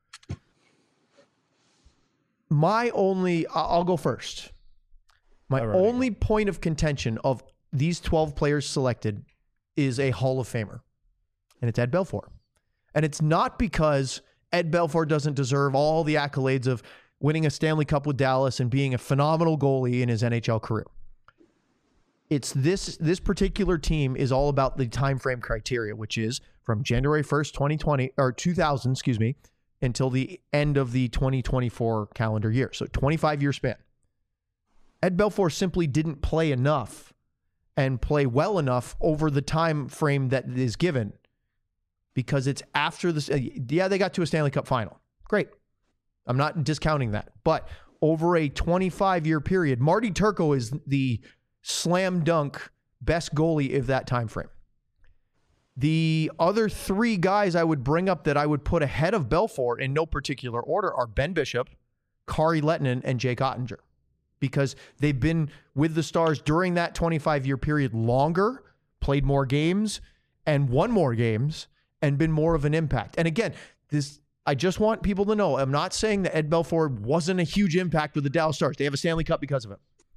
I'll go first. My only point of contention of these 12 players selected is a Hall of Famer, and it's Ed Belfour. And it's not because Ed Belfour doesn't deserve all the accolades of winning a Stanley Cup with Dallas and being a phenomenal goalie in his NHL career. It's this particular team is all about the time frame criteria, which is from January 1st, 2000, until the end of the 2024 calendar year. So 25-year span. Ed Belfour simply didn't play enough and play well enough over the time frame that is given, because it's after this. Yeah, they got to a Stanley Cup final. Great. I'm not discounting that. But over a 25-year period, Marty Turco is the slam dunk best goalie of that time frame. The other 3 guys I would bring up that I would put ahead of Belfour in no particular order are Ben Bishop, Kari Lehtinen, and Jake Ottinger, because they've been with the Stars during that 25-year period longer, played more games, and won more games, and been more of an impact. And again, I just want people to know, I'm not saying that Ed Belfour wasn't a huge impact with the Dallas Stars. They have a Stanley Cup because of him.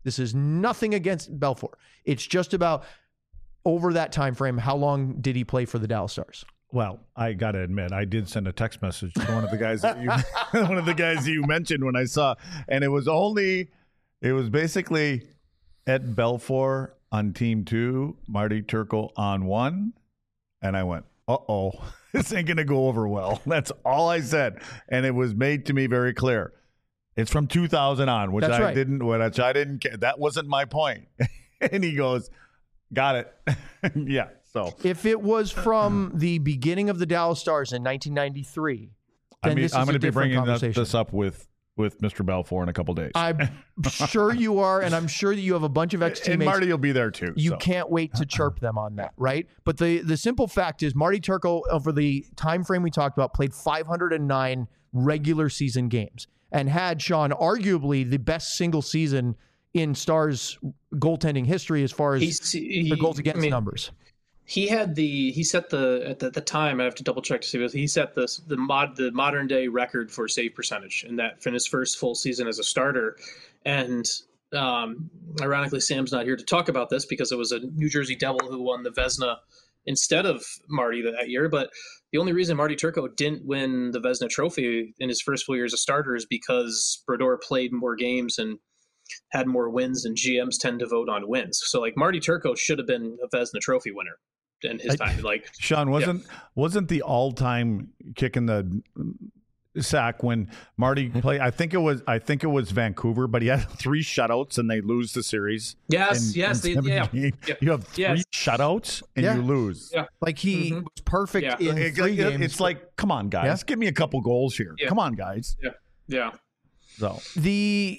This is nothing against Belfour. It's just about over that time frame, how long did he play for the Dallas Stars? Well, I got to admit, I did send a text message to one of the guys that you mentioned when I saw, and it was basically Ed Belfour on team 2, Marty Turco on 1, and I went, uh-oh, this ain't going to go over well. That's all I said, and it was made to me very clear. It's from 2000 on, which I didn't care. That wasn't my point. And he goes, got it. Yeah. So if it was from the beginning of the Dallas Stars in 1993, then I'm going to be bringing this up with Mr. Belfour in a couple days. I'm sure you are, and I'm sure that you have a bunch of ex-teammates. And Marty will be there too. You can't wait to chirp them on that, right? But the simple fact is Marty Turco, over the time frame we talked about, played 509 regular season games and had, Sean, arguably the best single season in Stars goaltending history as far as the goals against numbers. He set the time, I have to double check to see this, he set the modern day record for save percentage in his first full season as a starter. And ironically, Sam's not here to talk about this because it was a New Jersey Devil who won the Vezina instead of Marty that year. But the only reason Marty Turco didn't win the Vezina trophy in his first full year as a starter is because Brodeur played more games and had more wins, and GMs tend to vote on wins. So like Marty Turco should have been a Vezina trophy winner in his time. Like Sean, wasn't the all-time kick in the sack when Marty played? I think it was Vancouver, but he had 3 shutouts and they lose the series. Yes. You have 3 shutouts and you lose. Yeah. Like he was perfect in 3 games. It's like, come on, guys, give me a couple goals here. Yeah. Come on, guys. Yeah. So the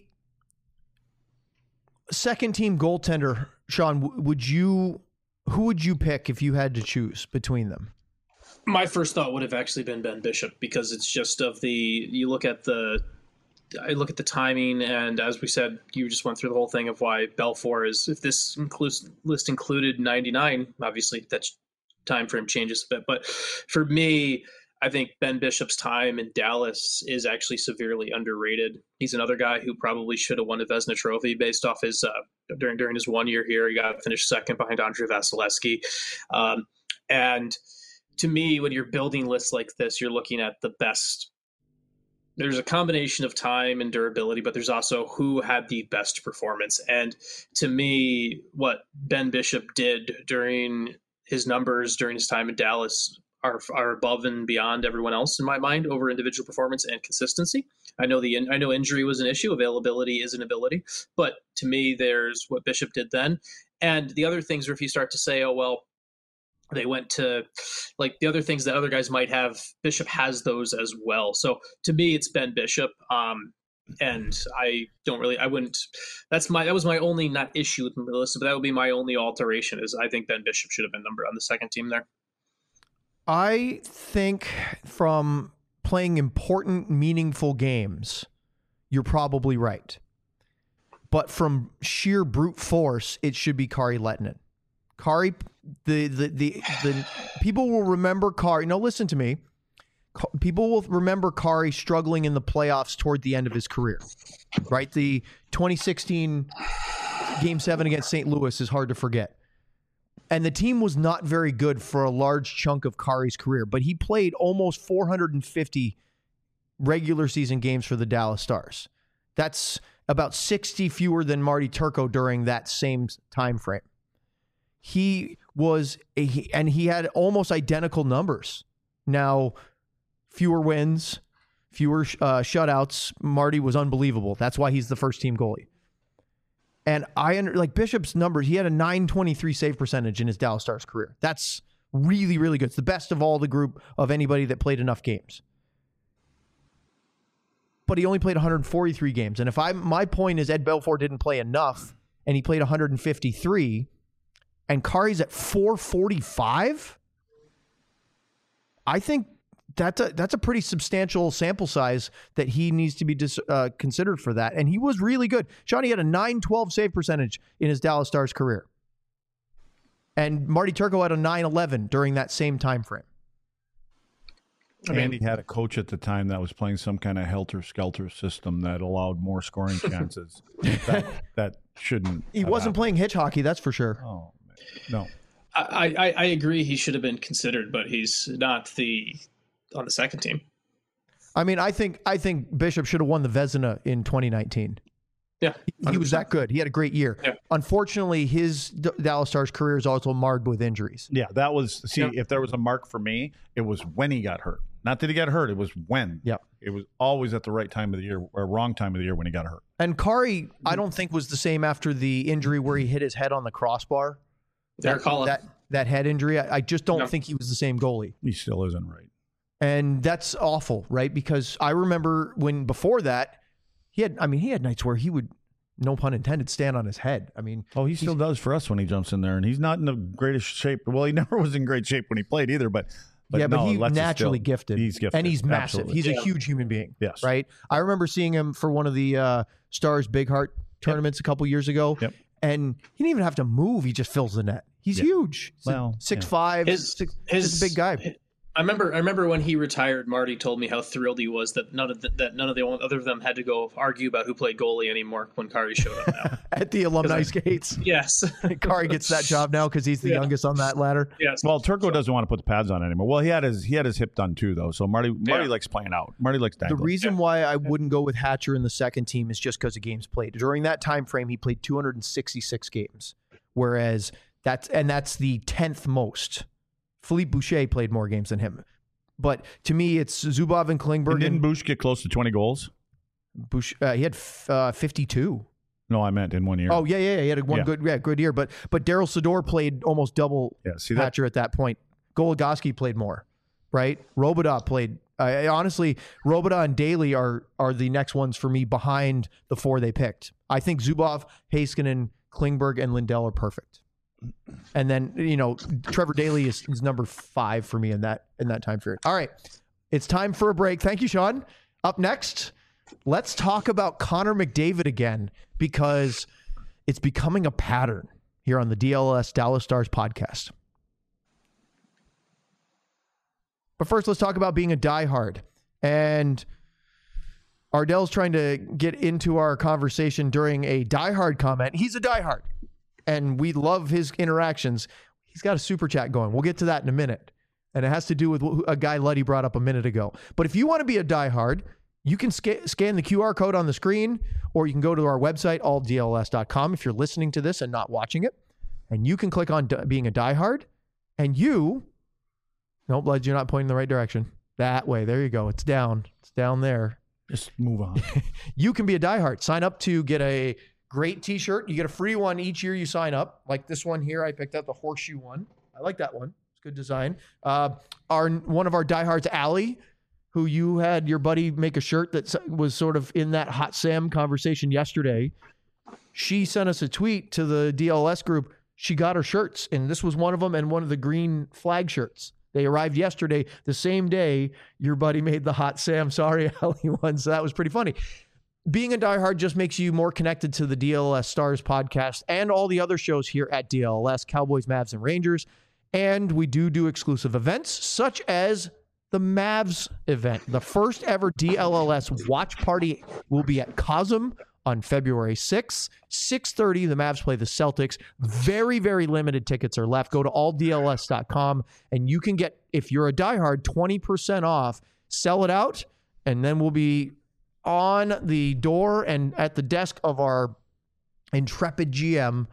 second team goaltender, Sean, who would you pick if you had to choose between them? My first thought would have actually been Ben Bishop, because it's just I look at the timing, and as we said, you just went through the whole thing of why Belfour is, if this list included 99, obviously that time frame changes a bit. But for me, I think Ben Bishop's time in Dallas is actually severely underrated. He's another guy who probably should have won a Vezina trophy based off his during his 1 year here. He got finished second behind Andrei Vasilevsky. And to me, when you're building lists like this, you're looking at the best. There's a combination of time and durability, but there's also who had the best performance. And to me, what Ben Bishop did during his numbers during his time in Dallas are above and beyond everyone else in my mind over individual performance and consistency. I know injury was an issue. Availability is an ability. But to me, there's what Bishop did then. And the other things are, if you start to say, oh, well, they went to like the other things that other guys might have, Bishop has those as well. So to me, it's Ben Bishop. And that was my only, not issue with Melissa, but that would be my only alteration, is I think Ben Bishop should have been number on the second team there. I think from playing important, meaningful games, you're probably right. But from sheer brute force, it should be Kari Lehtinen. Kari, the people will remember Kari. No, listen to me. People will remember Kari struggling in the playoffs toward the end of his career, right? The 2016 Game 7 against St. Louis is hard to forget. And the team was not very good for a large chunk of Kari's career, but he played almost 450 regular season games for the Dallas Stars. That's about 60 fewer than Marty Turco during that same time frame. He had almost identical numbers. Now, fewer wins, fewer shutouts. Marty was unbelievable. That's why he's the first team goalie. And Bishop's numbers, he had a .923 save percentage in his Dallas Stars career. That's really, really good. It's the best of all the group of anybody that played enough games. But he only played 143 games. And my point is Ed Belfour didn't play enough, and he played 153, and Kari's at 445. I think that's a pretty substantial sample size that he needs to be considered for that. And he was really good. Johnny had a .912 save percentage in his Dallas Stars career. And Marty Turco had a .911 during that same time frame. And he had a coach at the time that was playing some kind of helter-skelter system that allowed more scoring chances. that shouldn't. He wasn't playing hitch hockey, that's for sure. Oh, no. I agree he should have been considered, but he's not on the second team. I mean, I think Bishop should have won the Vezina in 2019. Yeah, he was that good. He had a great year. Yeah. Unfortunately, his Dallas Stars career is also marred with injuries. Yeah, that was if there was a mark for me, it was when he got hurt. Not that he got hurt, it was when. Yeah. It was always at the right time of the year or wrong time of the year when he got hurt. And Kari, I don't think was the same after the injury where he hit his head on the crossbar. That head injury. I just don't think he was the same goalie. He still isn't, right? And that's awful, right? Because I remember when before that, he had nights where he would, no pun intended, stand on his head. I mean, he still does for us when he jumps in there, and he's not in the greatest shape. Well, he never was in great shape when he played either, but he's naturally gifted. He's gifted. And he's massive. Absolutely. He's a huge human being. Yes. Right? I remember seeing him for one of the Stars Big Heart tournaments a couple years ago. Yep. And he didn't even have to move. He just fills the net. He's huge. He's 6'5". He's a big guy. I remember when he retired, Marty told me how thrilled he was that none of the other of them had to go argue about who played goalie anymore when Kari showed up now. At the alumni skates. Yes. Kari gets that job now because he's the youngest on that ladder. Yes. Well, Turco doesn't want to put the pads on anymore. Well, he had his hip done too, though. So Marty likes playing out. Marty likes dangling. The reason why I wouldn't go with Hatcher in the second team is just because of games played. During that time frame, he played 266 games, whereas that's the 10th most. Philippe Boucher played more games than him. But to me, it's Zubov and Klingberg. And didn't Bush get close to 20 goals? Bush, he had 52. No, I meant in 1 year. Oh, yeah. He had good year. But Daryl Sador played almost double Hatcher at that point. Goligoski played more, right? Robidas played. Honestly, Robidas and Daly are the next ones for me behind the four they picked. I think Zubov, Heiskanen, Klingberg, and Lindell are perfect. And then, Trevor Daly is number 5 for me in that time period. All right. It's time for a break. Thank you, Sean. Up next, let's talk about Connor McDavid again, because it's becoming a pattern here on the DLS Dallas Stars podcast. But first, let's talk about being a diehard. And Ardell's trying to get into our conversation during a diehard comment. He's a diehard, and we love his interactions. He's got a super chat going. We'll get to that in a minute. And it has to do with a guy Luddy brought up a minute ago. But if you want to be a diehard, you can scan the QR code on the screen, or you can go to our website, alldls.com, if you're listening to this and not watching it. And you can click on being a diehard, and nope, Lud, you're not pointing in the right direction. That way. There you go. It's down. It's down there. Just move on. You can be a diehard. Sign up to get a great t-shirt. You get a free one each year you sign up. Like this one here. I picked up the horseshoe one. I like that one. It's good design. One of our diehards, Allie, who you had your buddy make a shirt that was sort of in that Hot Sam conversation yesterday. She sent us a tweet to the DLS group. She got her shirts, and this was one of them, and one of the green flag shirts. They arrived yesterday, the same day your buddy made the Hot Sam Sorry Allie one. So that was pretty funny. Being a diehard just makes you more connected to the DLS Stars podcast and all the other shows here at DLS, Cowboys, Mavs, and Rangers. And we do exclusive events such as the Mavs event. The first ever DLLS watch party will be at Cosm on February 6th, 6:30. The Mavs play the Celtics. Very, very limited tickets are left. Go to alldls.com and you can get, if you're a diehard, 20% off. Sell it out, and then we'll be on the door and at the desk of our intrepid GM,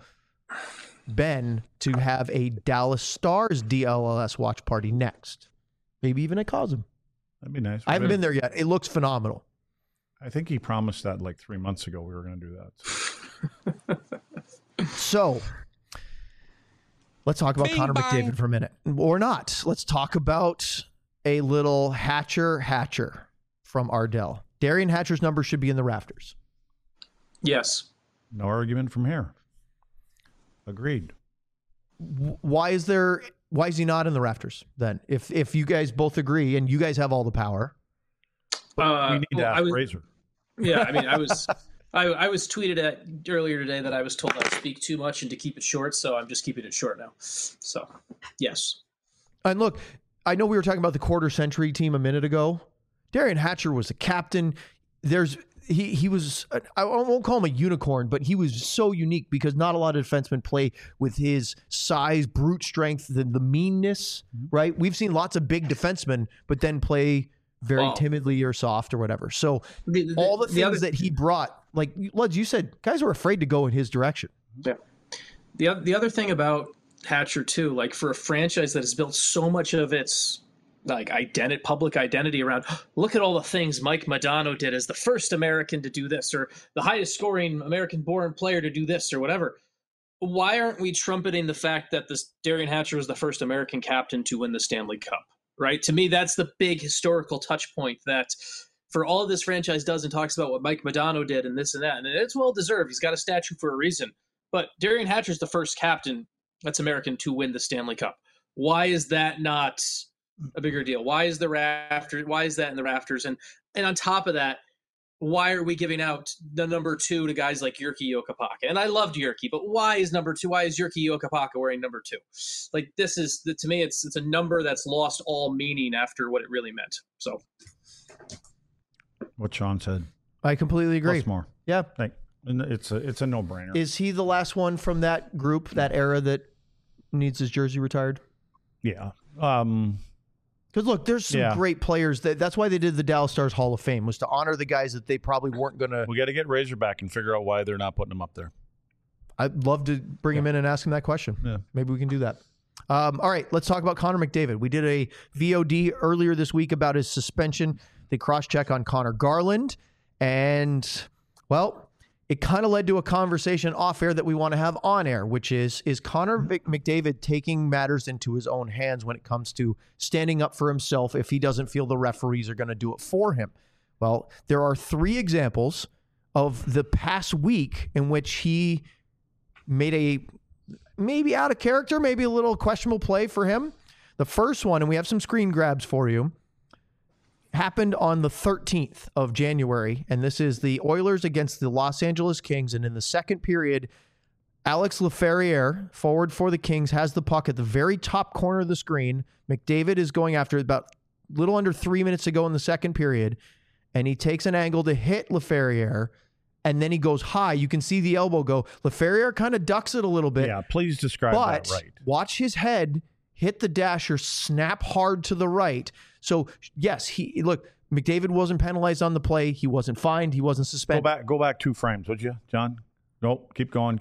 Ben, to have a Dallas Stars DLLS watch party next. Maybe even at Cosm. That'd be nice. I haven't been there yet. It looks phenomenal. I think he promised that like 3 months ago we were going to do that. So let's talk about Connor McDavid for a minute. Or not. Let's talk about a little Hatcher from Ardell. Darian Hatcher's number should be in the rafters. Yes. No argument from here. Agreed. Why is he not in the rafters then? If you guys both agree and you guys have all the power. We need to ask Razor. Yeah, I mean, I was tweeted at earlier today that I was told I speak too much and to keep it short, so I'm just keeping it short now. So, yes. And look, I know we were talking about the quarter century team a minute ago. Darian Hatcher was a captain. There's he was, I won't call him a unicorn, but he was so unique because not a lot of defensemen play with his size, brute strength, the meanness, right? We've seen lots of big defensemen, but then play very timidly or soft or whatever. So all the things that he brought, like Luds, you said, guys were afraid to go in his direction. Yeah. The other thing about Hatcher too, like for a franchise that has built so much of its like public identity around, look at all the things Mike Modano did as the first American to do this, or the highest scoring American-born player to do this, or whatever. Why aren't we trumpeting the fact that this Derian Hatcher was the first American captain to win the Stanley Cup? Right? To me, that's the big historical touch point that for all this franchise does and talks about what Mike Modano did and this and that, and it's well deserved. He's got a statue for a reason. But Derian Hatcher's the first captain that's American to win the Stanley Cup. Why is that not a bigger deal? Why is Why is that in the rafters? And on top of that, why are we giving out the number 2 to guys like Jyrki Jokipaka? And I loved Jyrki, but why is Jyrki Jokipaka wearing number 2? Like, this is, to me, it's a number that's lost all meaning after what it really meant. So, what Sean said, I completely agree. Plus more, yeah. It's a no-brainer. Is he the last one from that group, that era, that needs his jersey retired? Yeah. Because look, there's some great players. That's why they did the Dallas Stars Hall of Fame, was to honor the guys that they probably weren't going to. We got to get Razorback and figure out why they're not putting them up there. I'd love to bring him in and ask him that question. Yeah. Maybe we can do that. All right, let's talk about Connor McDavid. We did a VOD earlier this week about his suspension. They cross-check on Connor Garland. And, well, it kind of led to a conversation off air that we want to have on air, which is Connor McDavid taking matters into his own hands when it comes to standing up for himself if he doesn't feel the referees are going to do it for him? Well, there are 3 examples of the past week in which he made a maybe out of character, maybe a little questionable play for him. The first one, and we have some screen grabs for you, happened on the 13th of January, and this is the Oilers against the Los Angeles Kings. And in the second period, Alex Laferriere, forward for the Kings, has the puck at the very top corner of the screen. McDavid is going after it about a little under 3 minutes to go in the second period, and he takes an angle to hit Laferriere, and then he goes high. You can see the elbow go. Laferriere kind of ducks it a little bit. Yeah, please describe that right. Watch his head hit the dasher, snap hard to the right. So, yes, McDavid wasn't penalized on the play. He wasn't fined. He wasn't suspended. Go back 2 frames, would you, John? Nope. Keep going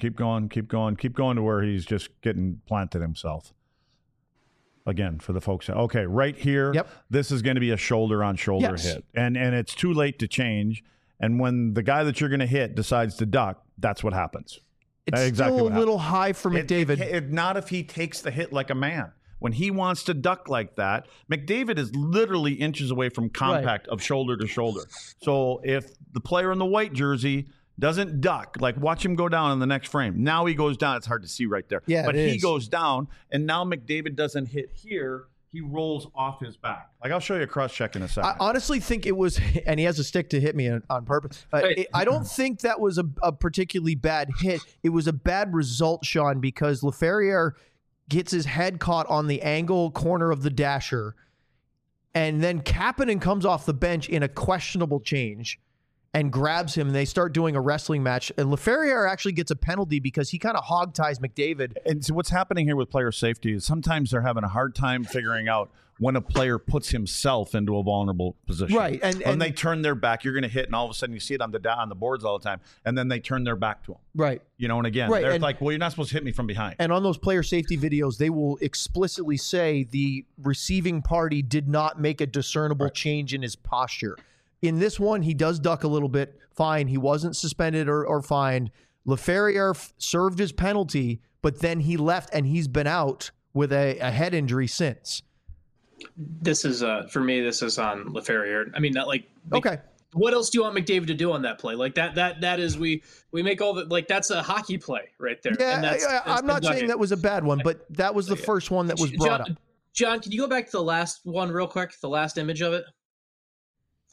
to where he's just getting planted himself. Again, for the folks. Okay, right here, This is going to be a shoulder-on-shoulder hit. And it's too late to change. And when the guy that you're going to hit decides to duck, that's what happens. It's still a little high for McDavid. Not if he takes the hit like a man. When he wants to duck like that, McDavid is literally inches away from contact of shoulder to shoulder. So if the player in the white jersey doesn't duck, like watch him go down in the next frame. Now he goes down. It's hard to see right there. Yeah, but he goes down, and now McDavid doesn't hit here. He rolls off his back. Like, I'll show you a cross-check in a second. I honestly think it was, and he has a stick to hit me on purpose. I don't think that was a particularly bad hit. It was a bad result, Sean, because Laferriere gets his head caught on the angle corner of the dasher, and then Kapanen comes off the bench in a questionable change and grabs him, and they start doing a wrestling match. And Laferriere actually gets a penalty because he kind of hog ties McDavid. And so what's happening here with player safety is sometimes they're having a hard time figuring out when a player puts himself into a vulnerable position. Right. And when they turn their back, you're going to hit, and all of a sudden you see it on the boards all the time, and then they turn their back to him. Right. You know, and again, they're like, well, you're not supposed to hit me from behind. And on those player safety videos, they will explicitly say the receiving party did not make a discernible change in his posture. In this one, he does duck a little bit. Fine. He wasn't suspended or fined. Laferriere served his penalty, but then he left, and he's been out with a head injury since. This is for me. This is on Laferriere. I mean, not like okay. What else do you want McDavid to do on that play? Like that is we make all the like that's a hockey play right there. Yeah, and that's I'm not saying that was a bad one, but that was the first one that was brought up. John, can you go back to the last one real quick? The last image of it.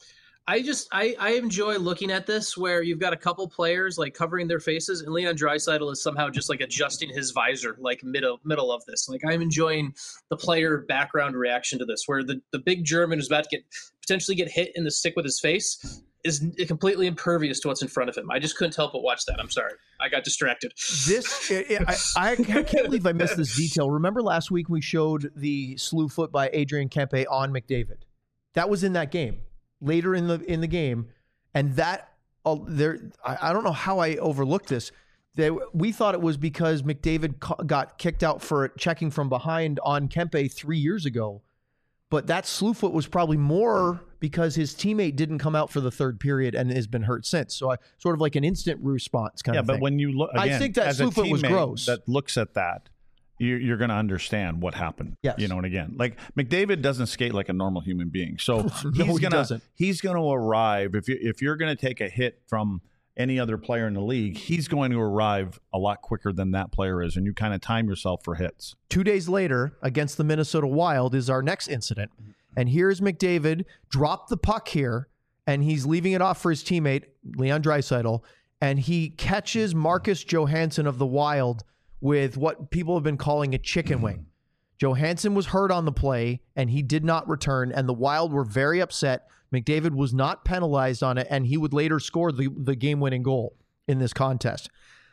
I enjoy looking at this where you've got a couple players like covering their faces, and Leon Draisaitl is somehow just like adjusting his visor like middle of this. Like I'm enjoying the player background reaction to this, where the big German who's about to potentially get hit in the stick with his face is completely impervious to what's in front of him. I just couldn't help but watch that. I'm sorry, I got distracted. I can't believe I missed this detail. Remember last week we showed the slew foot by Adrian Kempe on McDavid. That was in that game. Later in the game, and that I don't know how I overlooked this. We thought it was because McDavid got kicked out for checking from behind on Kempe 3 years ago, but that slew foot was probably more because his teammate didn't come out for the third period and has been hurt since. So sort of like an instant response kind of thing. Yeah, but when you look, again, I think that slew foot was gross. That looks at that. You're going to understand what happened. Yes. And again, like McDavid doesn't skate like a normal human being. So he's going to arrive. If you're going to take a hit from any other player in the league, he's going to arrive a lot quicker than that player is. And you kind of time yourself for hits. 2 days later against the Minnesota Wild is our next incident. And here's McDavid drop the puck here, and he's leaving it off for his teammate, Leon Draisaitl, and he catches Marcus Johansson of the Wild with what people have been calling a chicken wing. Johansson was hurt on the play, and he did not return, and the Wild were very upset. McDavid was not penalized on it, and he would later score the game-winning goal in this contest.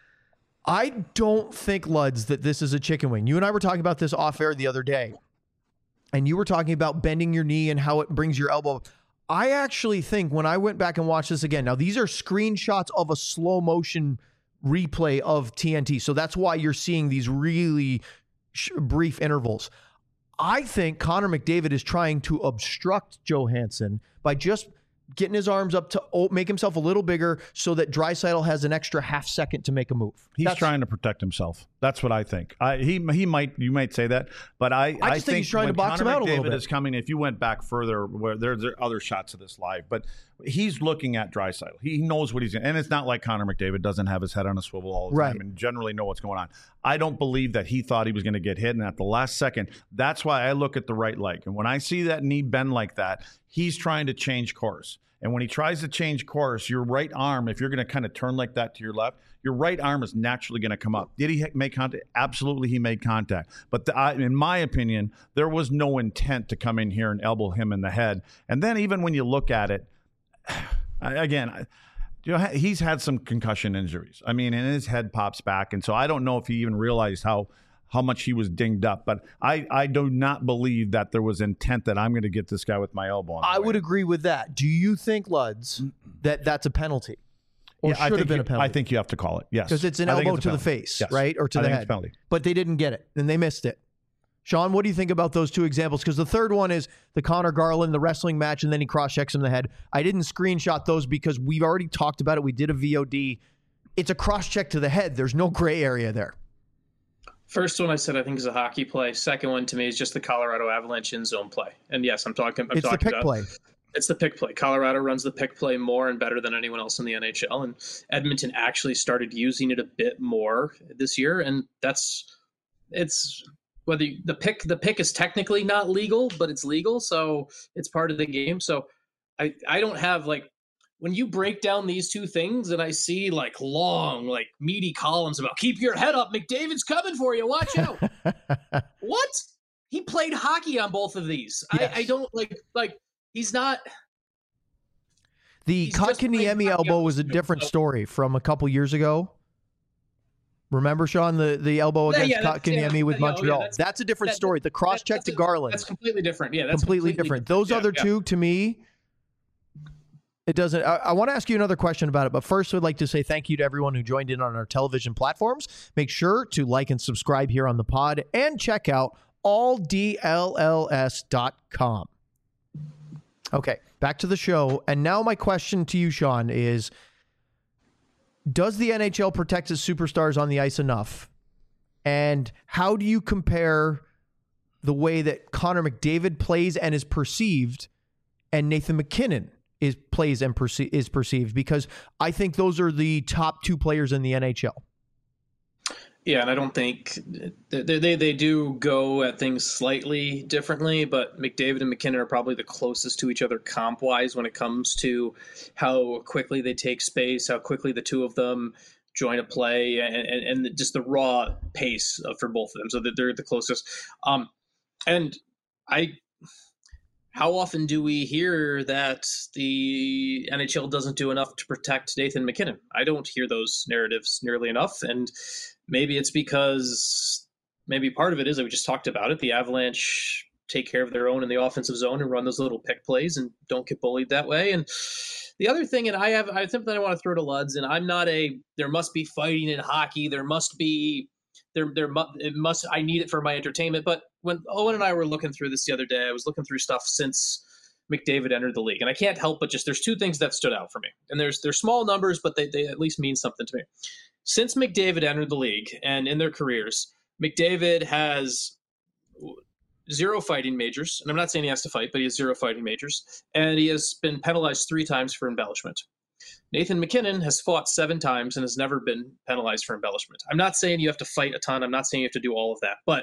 I don't think, Luds, that this is a chicken wing. You and I were talking about this off-air the other day, and you were talking about bending your knee and how it brings your elbow. I actually think when I went back and watched this again, now these are screenshots of a slow-motion replay of TNT. So that's why you're seeing these really brief intervals. I think Connor McDavid is trying to obstruct Johansson by just getting his arms up to make himself a little bigger so that Draisaitl has an extra half second to make a move. He's trying to protect himself. That's what I think. You might say that, but I just think he's trying to box him out a little bit. Is coming. If you went back further, where there are other shots of this live, but he's looking at Draisaitl. He knows what he's doing, and it's not like Connor McDavid doesn't have his head on a swivel all the time and generally know what's going on. I don't believe that he thought he was going to get hit, and at the last second, that's why I look at the right leg. And when I see that knee bend like that, he's trying to change course. And when he tries to change course, your right arm, if you're going to kind of turn like that to your left, your right arm is naturally going to come up. Did he make contact? Absolutely, he made contact. But in my opinion, there was no intent to come in here and elbow him in the head. And then even when you look at it, again, he's had some concussion injuries. I mean, and his head pops back. And so I don't know if he even realized how much he was dinged up. But I do not believe that there was intent that I'm going to get this guy with my elbow on. I would agree with that. Do you think, Luds, that that's a penalty? Or should have been a penalty? I think you have to call it, yes. Because it's an elbow to the face, right? Or to the head. But they didn't get it, and they missed it. Sean, what do you think about those two examples? Because the third one is the Connor Garland, the wrestling match, and then he cross-checks him in the head. I didn't screenshot those because we've already talked about it. We did a VOD. It's a cross-check to the head. There's no gray area there. First one I said I think is a hockey play. Second one to me is just the Colorado Avalanche in zone play. And yes, I'm talking the pick about play. It's the pick play. Colorado runs the pick play more and better than anyone else in the NHL, and Edmonton actually started using it a bit more this year. And it's whether the pick is technically not legal, but it's legal, so it's part of the game. So I don't have when you break down these two things and I see long, meaty columns about keep your head up, McDavid's coming for you, watch out. What? He played hockey on both of these. Yes. I don't he's not. The Kotkaniemi elbow was a different story from a couple years ago. Remember, Sean, the elbow against Kotkaniemi with Montreal? That's a different story. The cross-check to Garland. That's completely different. Yeah, that's completely different. Those other two, to me, it doesn't. I want to ask you another question about it, but first I'd like to say thank you to everyone who joined in on our television platforms. Make sure to like and subscribe here on the pod and check out alldlls.com. Okay, back to the show. And now my question to you, Sean, is does the NHL protect its superstars on the ice enough? And how do you compare the way that Connor McDavid plays and is perceived and Nathan MacKinnon plays and is perceived? Because I think those are the top two players in the NHL. Yeah, and I don't think they do go at things slightly differently, but McDavid and MacKinnon are probably the closest to each other comp-wise when it comes to how quickly they take space, how quickly the two of them join a play, and just the raw pace for both of them. So that they're the closest. How often do we hear that the NHL doesn't do enough to protect Nathan MacKinnon? I don't hear those narratives nearly enough, and maybe it's because maybe part of it is that we just talked about it. The Avalanche take care of their own in the offensive zone and run those little pick plays and don't get bullied that way. And the other thing, and I think that I want to throw to Luds, and I'm not there must be fighting in hockey. There must be, I need it for my entertainment. But when Owen and I were looking through this the other day, I was looking through stuff since McDavid entered the league. And I can't help but there's two things that stood out for me. And they're small numbers, but they at least mean something to me. Since McDavid entered the league and in their careers, McDavid has 0 fighting majors. And I'm not saying he has to fight, but he has 0 fighting majors. And he has been penalized 3 times for embellishment. Nathan MacKinnon has fought 7 times and has never been penalized for embellishment. I'm not saying you have to fight a ton. I'm not saying you have to do all of that. But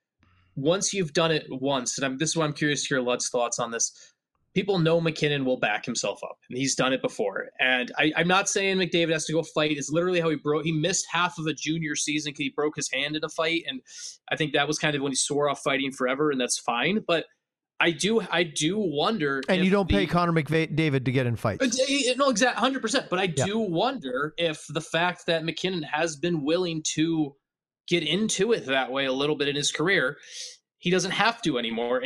once you've done it once, and this is why I'm curious to hear Lud's thoughts on this, people know MacKinnon will back himself up, and he's done it before. And I'm not saying McDavid has to go fight. It's literally how he missed half of a junior season because he broke his hand in a fight, and I think that was kind of when he swore off fighting forever, and that's fine. But I do wonder. And you don't pay Connor McDavid to get in fights. No, exactly, 100%. But I do wonder if the fact that MacKinnon has been willing to get into it that way a little bit in his career, he doesn't have to anymore.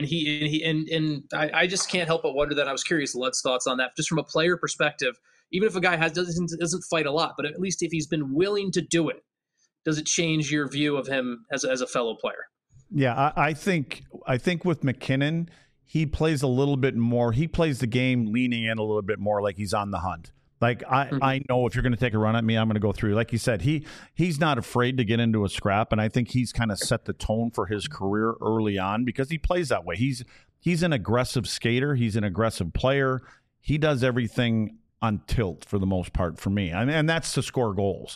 And I just can't help but wonder that. I was curious Lud's thoughts on that, just from a player perspective. Even if a guy doesn't fight a lot, but at least if he's been willing to do it, does it change your view of him as a fellow player? Yeah, I think with MacKinnon, he plays a little bit more. He plays the game leaning in a little bit more, like he's on the hunt. Like I know if you're going to take a run at me, I'm going to go through. Like you said, he's not afraid to get into a scrap, and I think he's kind of set the tone for his career early on because he plays that way. He's an aggressive skater. He's an aggressive player. He does everything on tilt for the most part for me. I mean, and that's to score goals.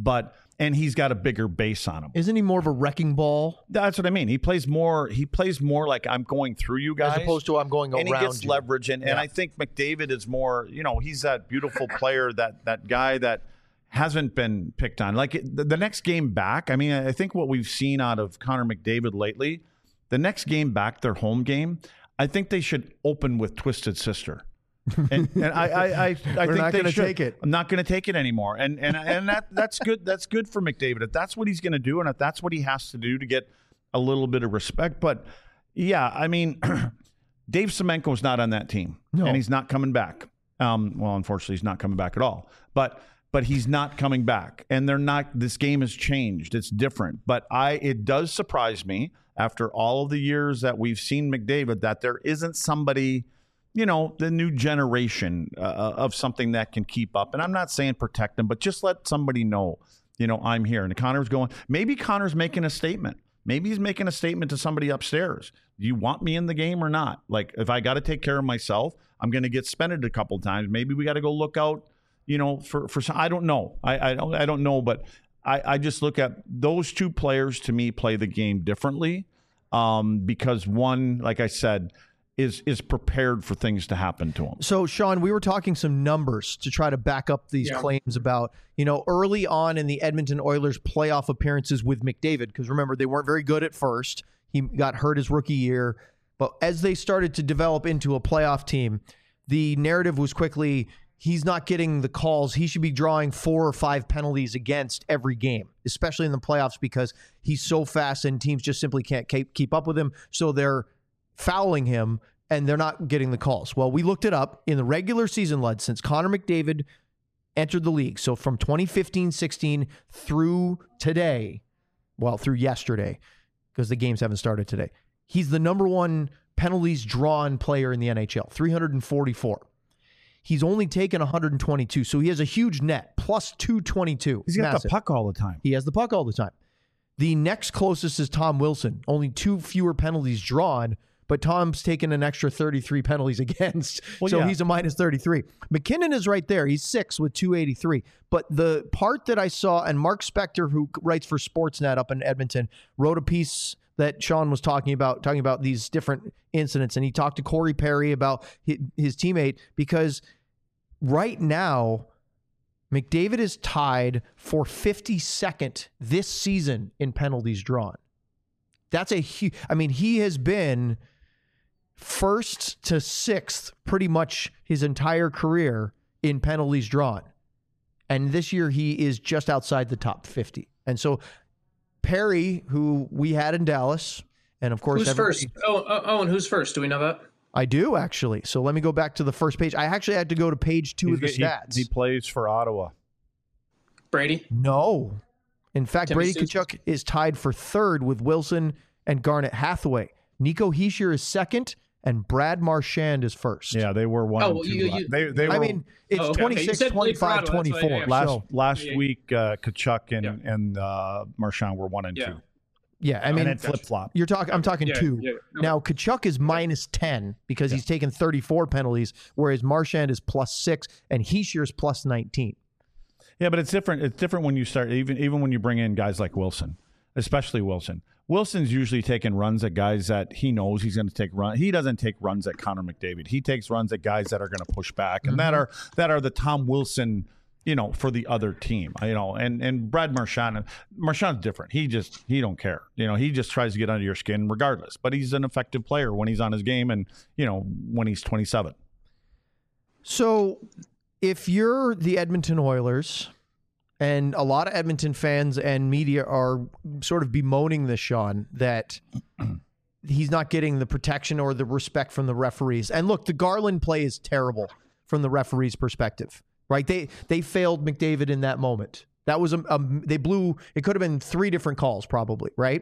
And he's got a bigger base on him. Isn't he more of a wrecking ball? That's what I mean. He plays more like I'm going through you guys. As opposed to I'm going around you. And he gets leverage. And I think McDavid is more, he's that beautiful player, that guy that hasn't been picked on. Like the next game back, I mean, I think what we've seen out of Connor McDavid lately, the next game back, their home game, I think they should open with Twisted Sister. And I think they should take it. I'm not going to take it anymore. And that's good. That's good for McDavid. If that's what he's going to do, and if that's what he has to do to get a little bit of respect. But yeah, I mean, Dave Semenko is not on that team, and he's not coming back. Well, unfortunately, he's not coming back at all. But he's not coming back, and they're not. This game has changed. It's different. But it does surprise me after all of the years that we've seen McDavid that there isn't somebody, the new generation of something that can keep up. And I'm not saying protect them, but just let somebody know, I'm here. And Connor's maybe Connor's making a statement. Maybe he's making a statement to somebody upstairs. Do you want me in the game or not? Like, if I got to take care of myself, I'm going to get suspended a couple times. Maybe we got to go look out, for some, I don't know. I don't know, but I just look at those two players to me play the game differently because one, like I said, is prepared for things to happen to him. So, Sean, we were talking some numbers to try to back up these claims about, early on in the Edmonton Oilers playoff appearances with McDavid, because remember, they weren't very good at first. He got hurt his rookie year. But as they started to develop into a playoff team, the narrative was quickly, he's not getting the calls. He should be drawing 4 or 5 penalties against every game, especially in the playoffs, because he's so fast and teams just simply can't keep up with him. So they're fouling him, and they're not getting the calls. Well, we looked it up in the regular season, Lud, since Connor McDavid entered the league. So from 2015-16 through today, through yesterday, because the games haven't started today, he's the number 1 penalties drawn player in the NHL, 344. He's only taken 122, so he has a huge net, plus 222. He's got the puck all the time. He has the puck all the time. The next closest is Tom Wilson, only 2 fewer penalties drawn, but Tom's taken an extra 33 penalties against, so yeah. he's a minus 33. McKinnon is right there. He's 6 with 283. But the part that I saw, and Mark Spector, who writes for Sportsnet up in Edmonton, wrote a piece that Sean was talking about these different incidents, and he talked to Corey Perry about his teammate, because right now McDavid is tied for 52nd this season in penalties drawn. That's a huge, he has been first to sixth pretty much his entire career in penalties drawn. And this year he is just outside the top 50. And so Perry, who we had in Dallas, and of course... Who's first? Owen, who's first? Do we know that? I do, actually. So let me go back to the first page. I actually had to go to page 2 of the stats. He plays for Ottawa. Brady? No. In fact, Timmy Brady Tkachuk is tied for third with Wilson and Garnet Hathaway. Nico Hischier is second, and Brad Marchand is first. Yeah, they were 1 and 2. They were, it's 26, 25, 24. Last week, Tkachuk and Marchand were 1 and 2. Yeah, and then flip-flop. I'm talking 2. Yeah. Now, Tkachuk is minus 10 because he's taken 34 penalties, whereas Marchand is plus 6, and Hischier is plus 19. Yeah, but it's different. It's different when you start, even when you bring in guys like Wilson, especially Wilson. Wilson's usually taking runs at guys that he knows he's going to take run. He doesn't take runs at Connor McDavid. He takes runs at guys that are going to push back, and that are the Tom Wilson, for the other team. And Brad Marchand's different. He don't care. He just tries to get under your skin regardless. But he's an effective player when he's on his game, and when he's 27. So, if you're the Edmonton Oilers, and a lot of Edmonton fans and media are sort of bemoaning this, Sean, that he's not getting the protection or the respect from the referees. And look, the Garland play is terrible from the referee's perspective, right? They failed McDavid in that moment. That was they blew. It could have been 3 different calls, probably, right?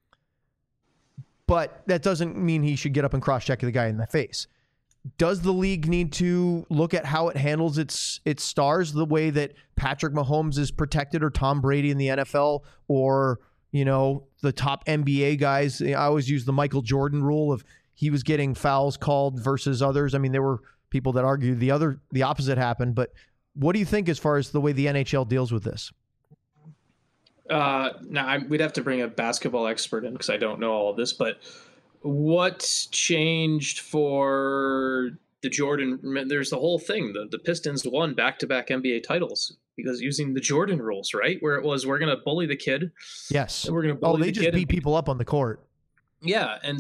But that doesn't mean he should get up and cross-check the guy in the face. Does the league need to look at how it handles its stars the way that Patrick Mahomes is protected, or Tom Brady in the NFL, or, the top NBA guys? I always use the Michael Jordan rule of he was getting fouls called versus others. There were people that argued the opposite happened, but what do you think as far as the way the NHL deals with this? Now we'd have to bring a basketball expert in because I don't know all of this, but what changed for the Jordan? There's the whole thing. The Pistons won back-to-back NBA titles because using the Jordan rules, right? Where it was, we're going to bully the kid. Yes. We're going to bully the kid. They just beat people up on the court. Yeah. And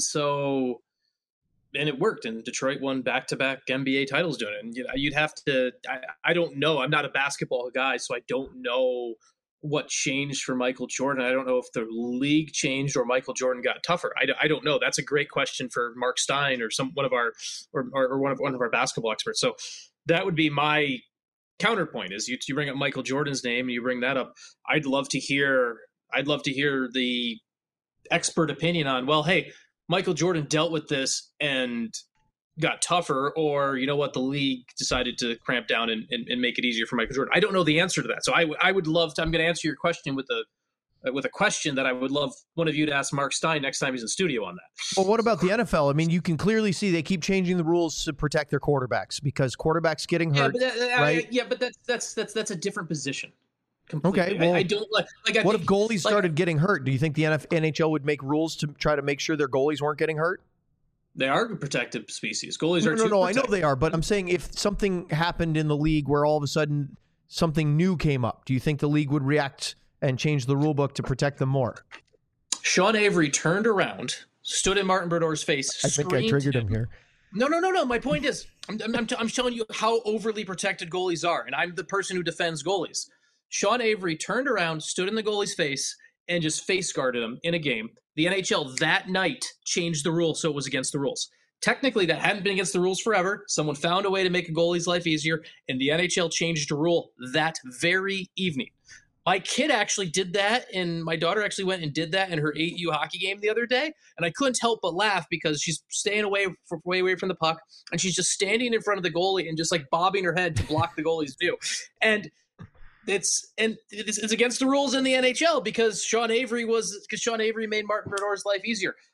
it worked, and Detroit won back-to-back NBA titles doing it. And you'd have to, I don't know. I'm not a basketball guy, so I don't know what changed for Michael Jordan. I don't know if the league changed or Michael Jordan got tougher. I don't know. That's a great question for Mark Stein or one of our basketball experts. So that would be my counterpoint. Is you bring up Michael Jordan's name and you bring that up. I'd love to hear the expert opinion on, well, hey, Michael Jordan dealt with this and got tougher, or the league decided to cramp down and make it easier for Michael Jordan. I don't know the answer to that. So I would love to, I'm going to answer your question with a question that I would love one of you to ask Mark Stein next time he's in studio on that. Well, what about the NFL? You can clearly see they keep changing the rules to protect their quarterbacks because quarterbacks getting hurt. Right? But that's a different position. Completely. Okay, well, I don't like. What if goalies started getting hurt? Do you think the NHL would make rules to try to make sure their goalies weren't getting hurt? They are a protected species. Goalies are no. I know they are, but I'm saying if something happened in the league where all of a sudden something new came up, do you think the league would react and change the rule book to protect them more? Sean Avery turned around, stood in Martin Brodor's face. I think I triggered him here. No. My point is, I'm showing you how overly protected goalies are, and I'm the person who defends goalies. Sean Avery turned around, stood in the goalie's face, and just face guarded him in a game. The NHL that night changed the rule so it was against the rules. Technically, that hadn't been against the rules forever. Someone found a way to make a goalie's life easier, and the NHL changed a rule that very evening. My kid actually did that, and my daughter actually went and did that in her 8U hockey game the other day, and I couldn't help but laugh because she's staying way away from the puck, and she's just standing in front of the goalie and just bobbing her head to block the goalie's view. And it's against the rules in the NHL because Sean Avery made Martin Brodor's life easier.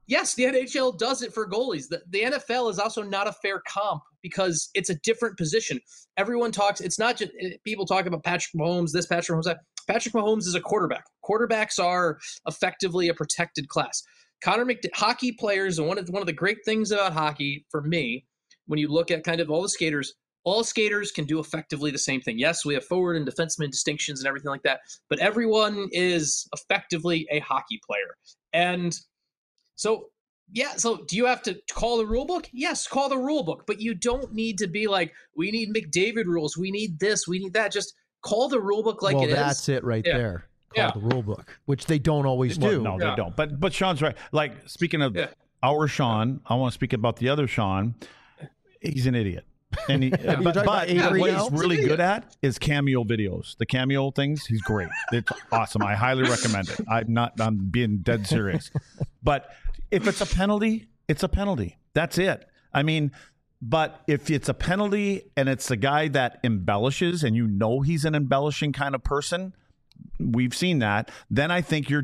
Yes, the NHL does it for goalies. The NFL is also not a fair comp because it's a different position. Everyone talks, it's not just people talk about Patrick Mahomes, this Patrick Mahomes, that. Patrick Mahomes is a quarterback. Quarterbacks are effectively a protected class. Hockey players, and one of the great things about hockey for me, when you look at kind of all skaters can do effectively the same thing. Yes, we have forward and defenseman distinctions and everything like that, but everyone is effectively a hockey player. And so do you have to call the rule book? Yes, call the rule book, but you don't need to be like, we need McDavid rules, we need this, we need that. Just call the rule book like it is. Well, that's it right there. Call the rule book, which they don't always do. No, they don't. But Sean's right. Like, speaking of our Sean, I want to speak about the other Sean. He's an idiot. And but what he's really good at is cameo videos. The cameo things, he's great. It's awesome. I highly recommend it. I'm being dead serious. But if it's a penalty, it's a penalty. That's it. I mean, but if it's a penalty and it's a guy that embellishes and you know he's an embellishing kind of person, we've seen that, then I think you're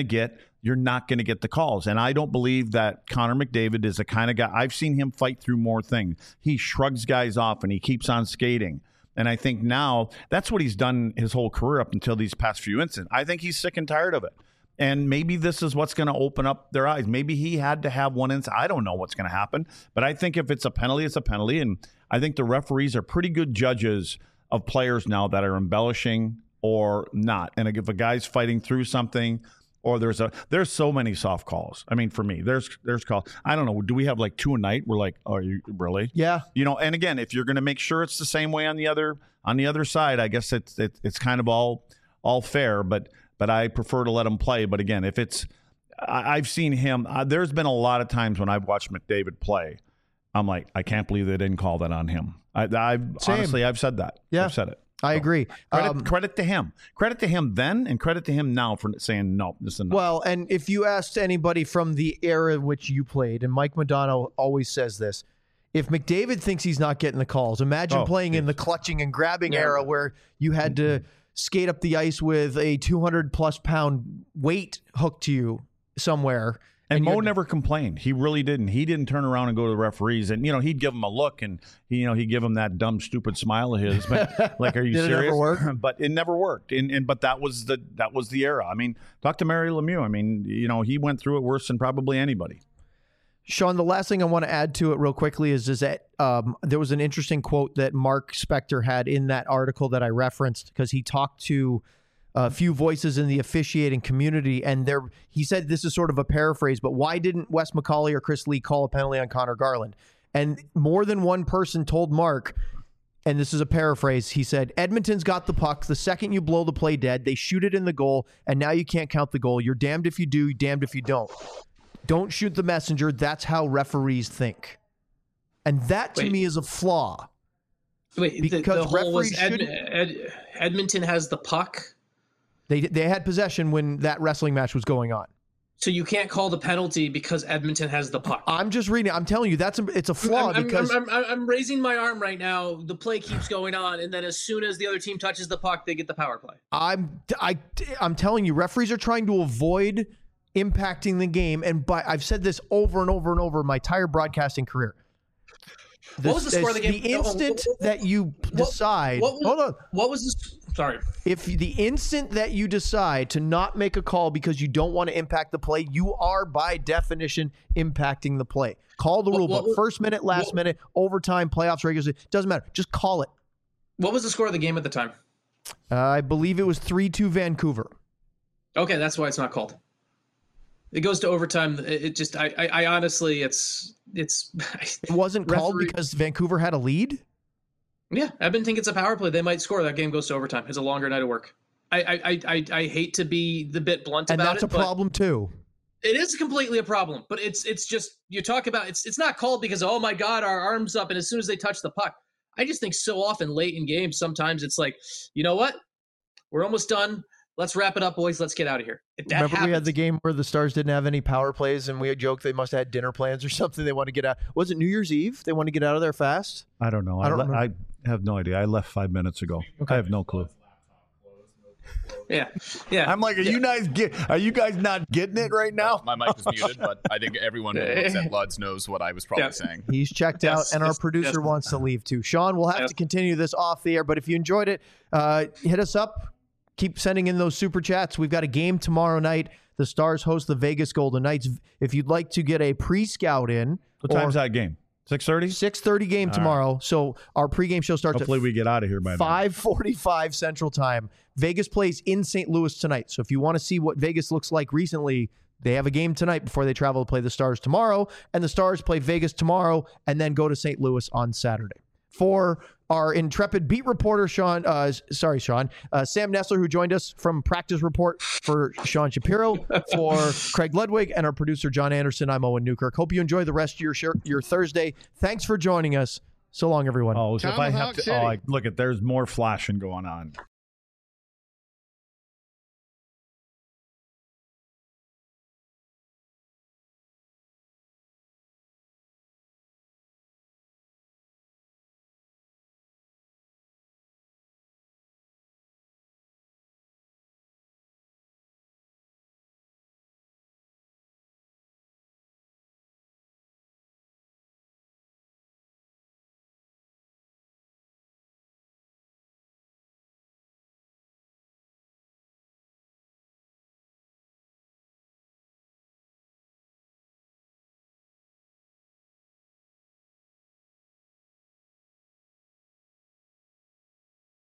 not going to get the calls. And I don't believe that Connor McDavid is the kind of guy. I've seen him fight through more things. He shrugs guys off and he keeps on skating. And I think now that's what he's done his whole career up until these past few incidents. I think he's sick and tired of it. And maybe this is what's going to open up their eyes. Maybe he had to have one incident. I don't know what's going to happen. But I think if it's a penalty, it's a penalty. And I think the referees are pretty good judges of players now that are embellishing or not. And if a guy's fighting through something, or there's so many soft calls. I mean, for me, there's calls. I don't know. Do we have like 2 a night? We're like, oh, are you really? Yeah. And again, if you're going to make sure it's the same way on the other side, I guess it's kind of all fair. But I prefer to let him play. But again, if it's, I've seen him. There's been a lot of times when I've watched McDavid play. I'm like, I can't believe they didn't call that on him. Honestly, I've said that. Yeah. I've said it. I agree. Credit to him. Credit to him then, and credit to him now for saying no. This is enough. Well, and if you asked anybody from the era in which you played, and Mike Modano always says this, if McDavid thinks he's not getting the calls, imagine playing in the clutching and grabbing era where you had to skate up the ice with a 200-plus pound weight hooked to you somewhere. And Mo never complained. He really didn't. He didn't turn around and go to the referees. And, he'd give him a look and, he'd give him that dumb, stupid smile of his. But, like, are you serious? It never work? But it never worked. But that was the era. I mean, talk to Mario Lemieux. I mean, he went through it worse than probably anybody. Sean, the last thing I want to add to it real quickly is that there was an interesting quote that Mark Spector had in that article that I referenced, because he talked to a few voices in the officiating community, and he said, this is sort of a paraphrase, but why didn't Wes McCauley or Chris Lee call a penalty on Connor Garland? And more than one person told Mark, and this is a paraphrase, he said, Edmonton's got the puck. The second you blow the play dead, they shoot it in the goal, and now you can't count the goal. You're damned if you do, damned if you don't. Don't shoot the messenger. That's how referees think. And that, to me, is a flaw. Wait, because the whole was referees Edmonton has the puck? They had possession when that wrestling match was going on. So you can't call the penalty because Edmonton has the puck. I'm just reading. I'm telling you, it's a flaw. I'm raising my arm right now. The play keeps going on, and then as soon as the other team touches the puck, they get the power play. I'm telling you, referees are trying to avoid impacting the game, and I've said this over and over and over my entire broadcasting career. What was the score of the game? The instant that you decide. Hold on. What was this? Sorry. If the instant that you decide to not make a call because you don't want to impact the play, you are by definition impacting the play. Call the rule book. First minute, last minute, overtime, playoffs, regular season. Doesn't matter. Just call it. What was the score of the game at the time? I believe it was 3-2 Vancouver. Okay, that's why it's not called. It goes to overtime. It just, I honestly, it wasn't called because Vancouver had a lead. Yeah, Edmonton gets a power play. They might score. That game goes to overtime. It's a longer night of work. I hate to be the bit blunt about it, and that's a problem too. It is completely a problem, but it's just, you talk about it's not called because, oh my God, our arm's up, and as soon as they touch the puck, I just think so often late in games, sometimes it's like, you know what, we're almost done. Let's wrap it up, boys. Let's get out of here. Remember we had the game where the Stars didn't have any power plays, and we had joked they must have had dinner plans or something. They want to get out. Was it New Year's Eve? They want to get out of there fast? I don't know. I have no idea. I left 5 minutes ago. Okay. I have no clue. Yeah. I'm like, are you guys not getting it right now? My mic is muted, but I think everyone who looks at Luds knows what I was probably saying. He's checked out, and our producer wants to leave too. Sean, we'll have to continue this off the air, but if you enjoyed it, hit us up. Keep sending in those super chats. We've got a game tomorrow night. The Stars host the Vegas Golden Knights. If you'd like to get a pre-scout in. What time's that game? 6:30? 6:30 game tomorrow. Right. So our pregame show starts Hopefully we get out of here by 5:45 Central Time. Vegas plays in St. Louis tonight. So if you want to see what Vegas looks like recently, they have a game tonight before they travel to play the Stars tomorrow. And the Stars play Vegas tomorrow and then go to St. Louis on Saturday. For our intrepid beat reporter, Sam Nessler, who joined us from Practice Report, for Sean Shapiro, for Craig Ludwig, and our producer, John Anderson, I'm Owen Newkirk. Hope you enjoy the rest of your Thursday. Thanks for joining us. So long, everyone. So if I have to, look, there's more flashing going on.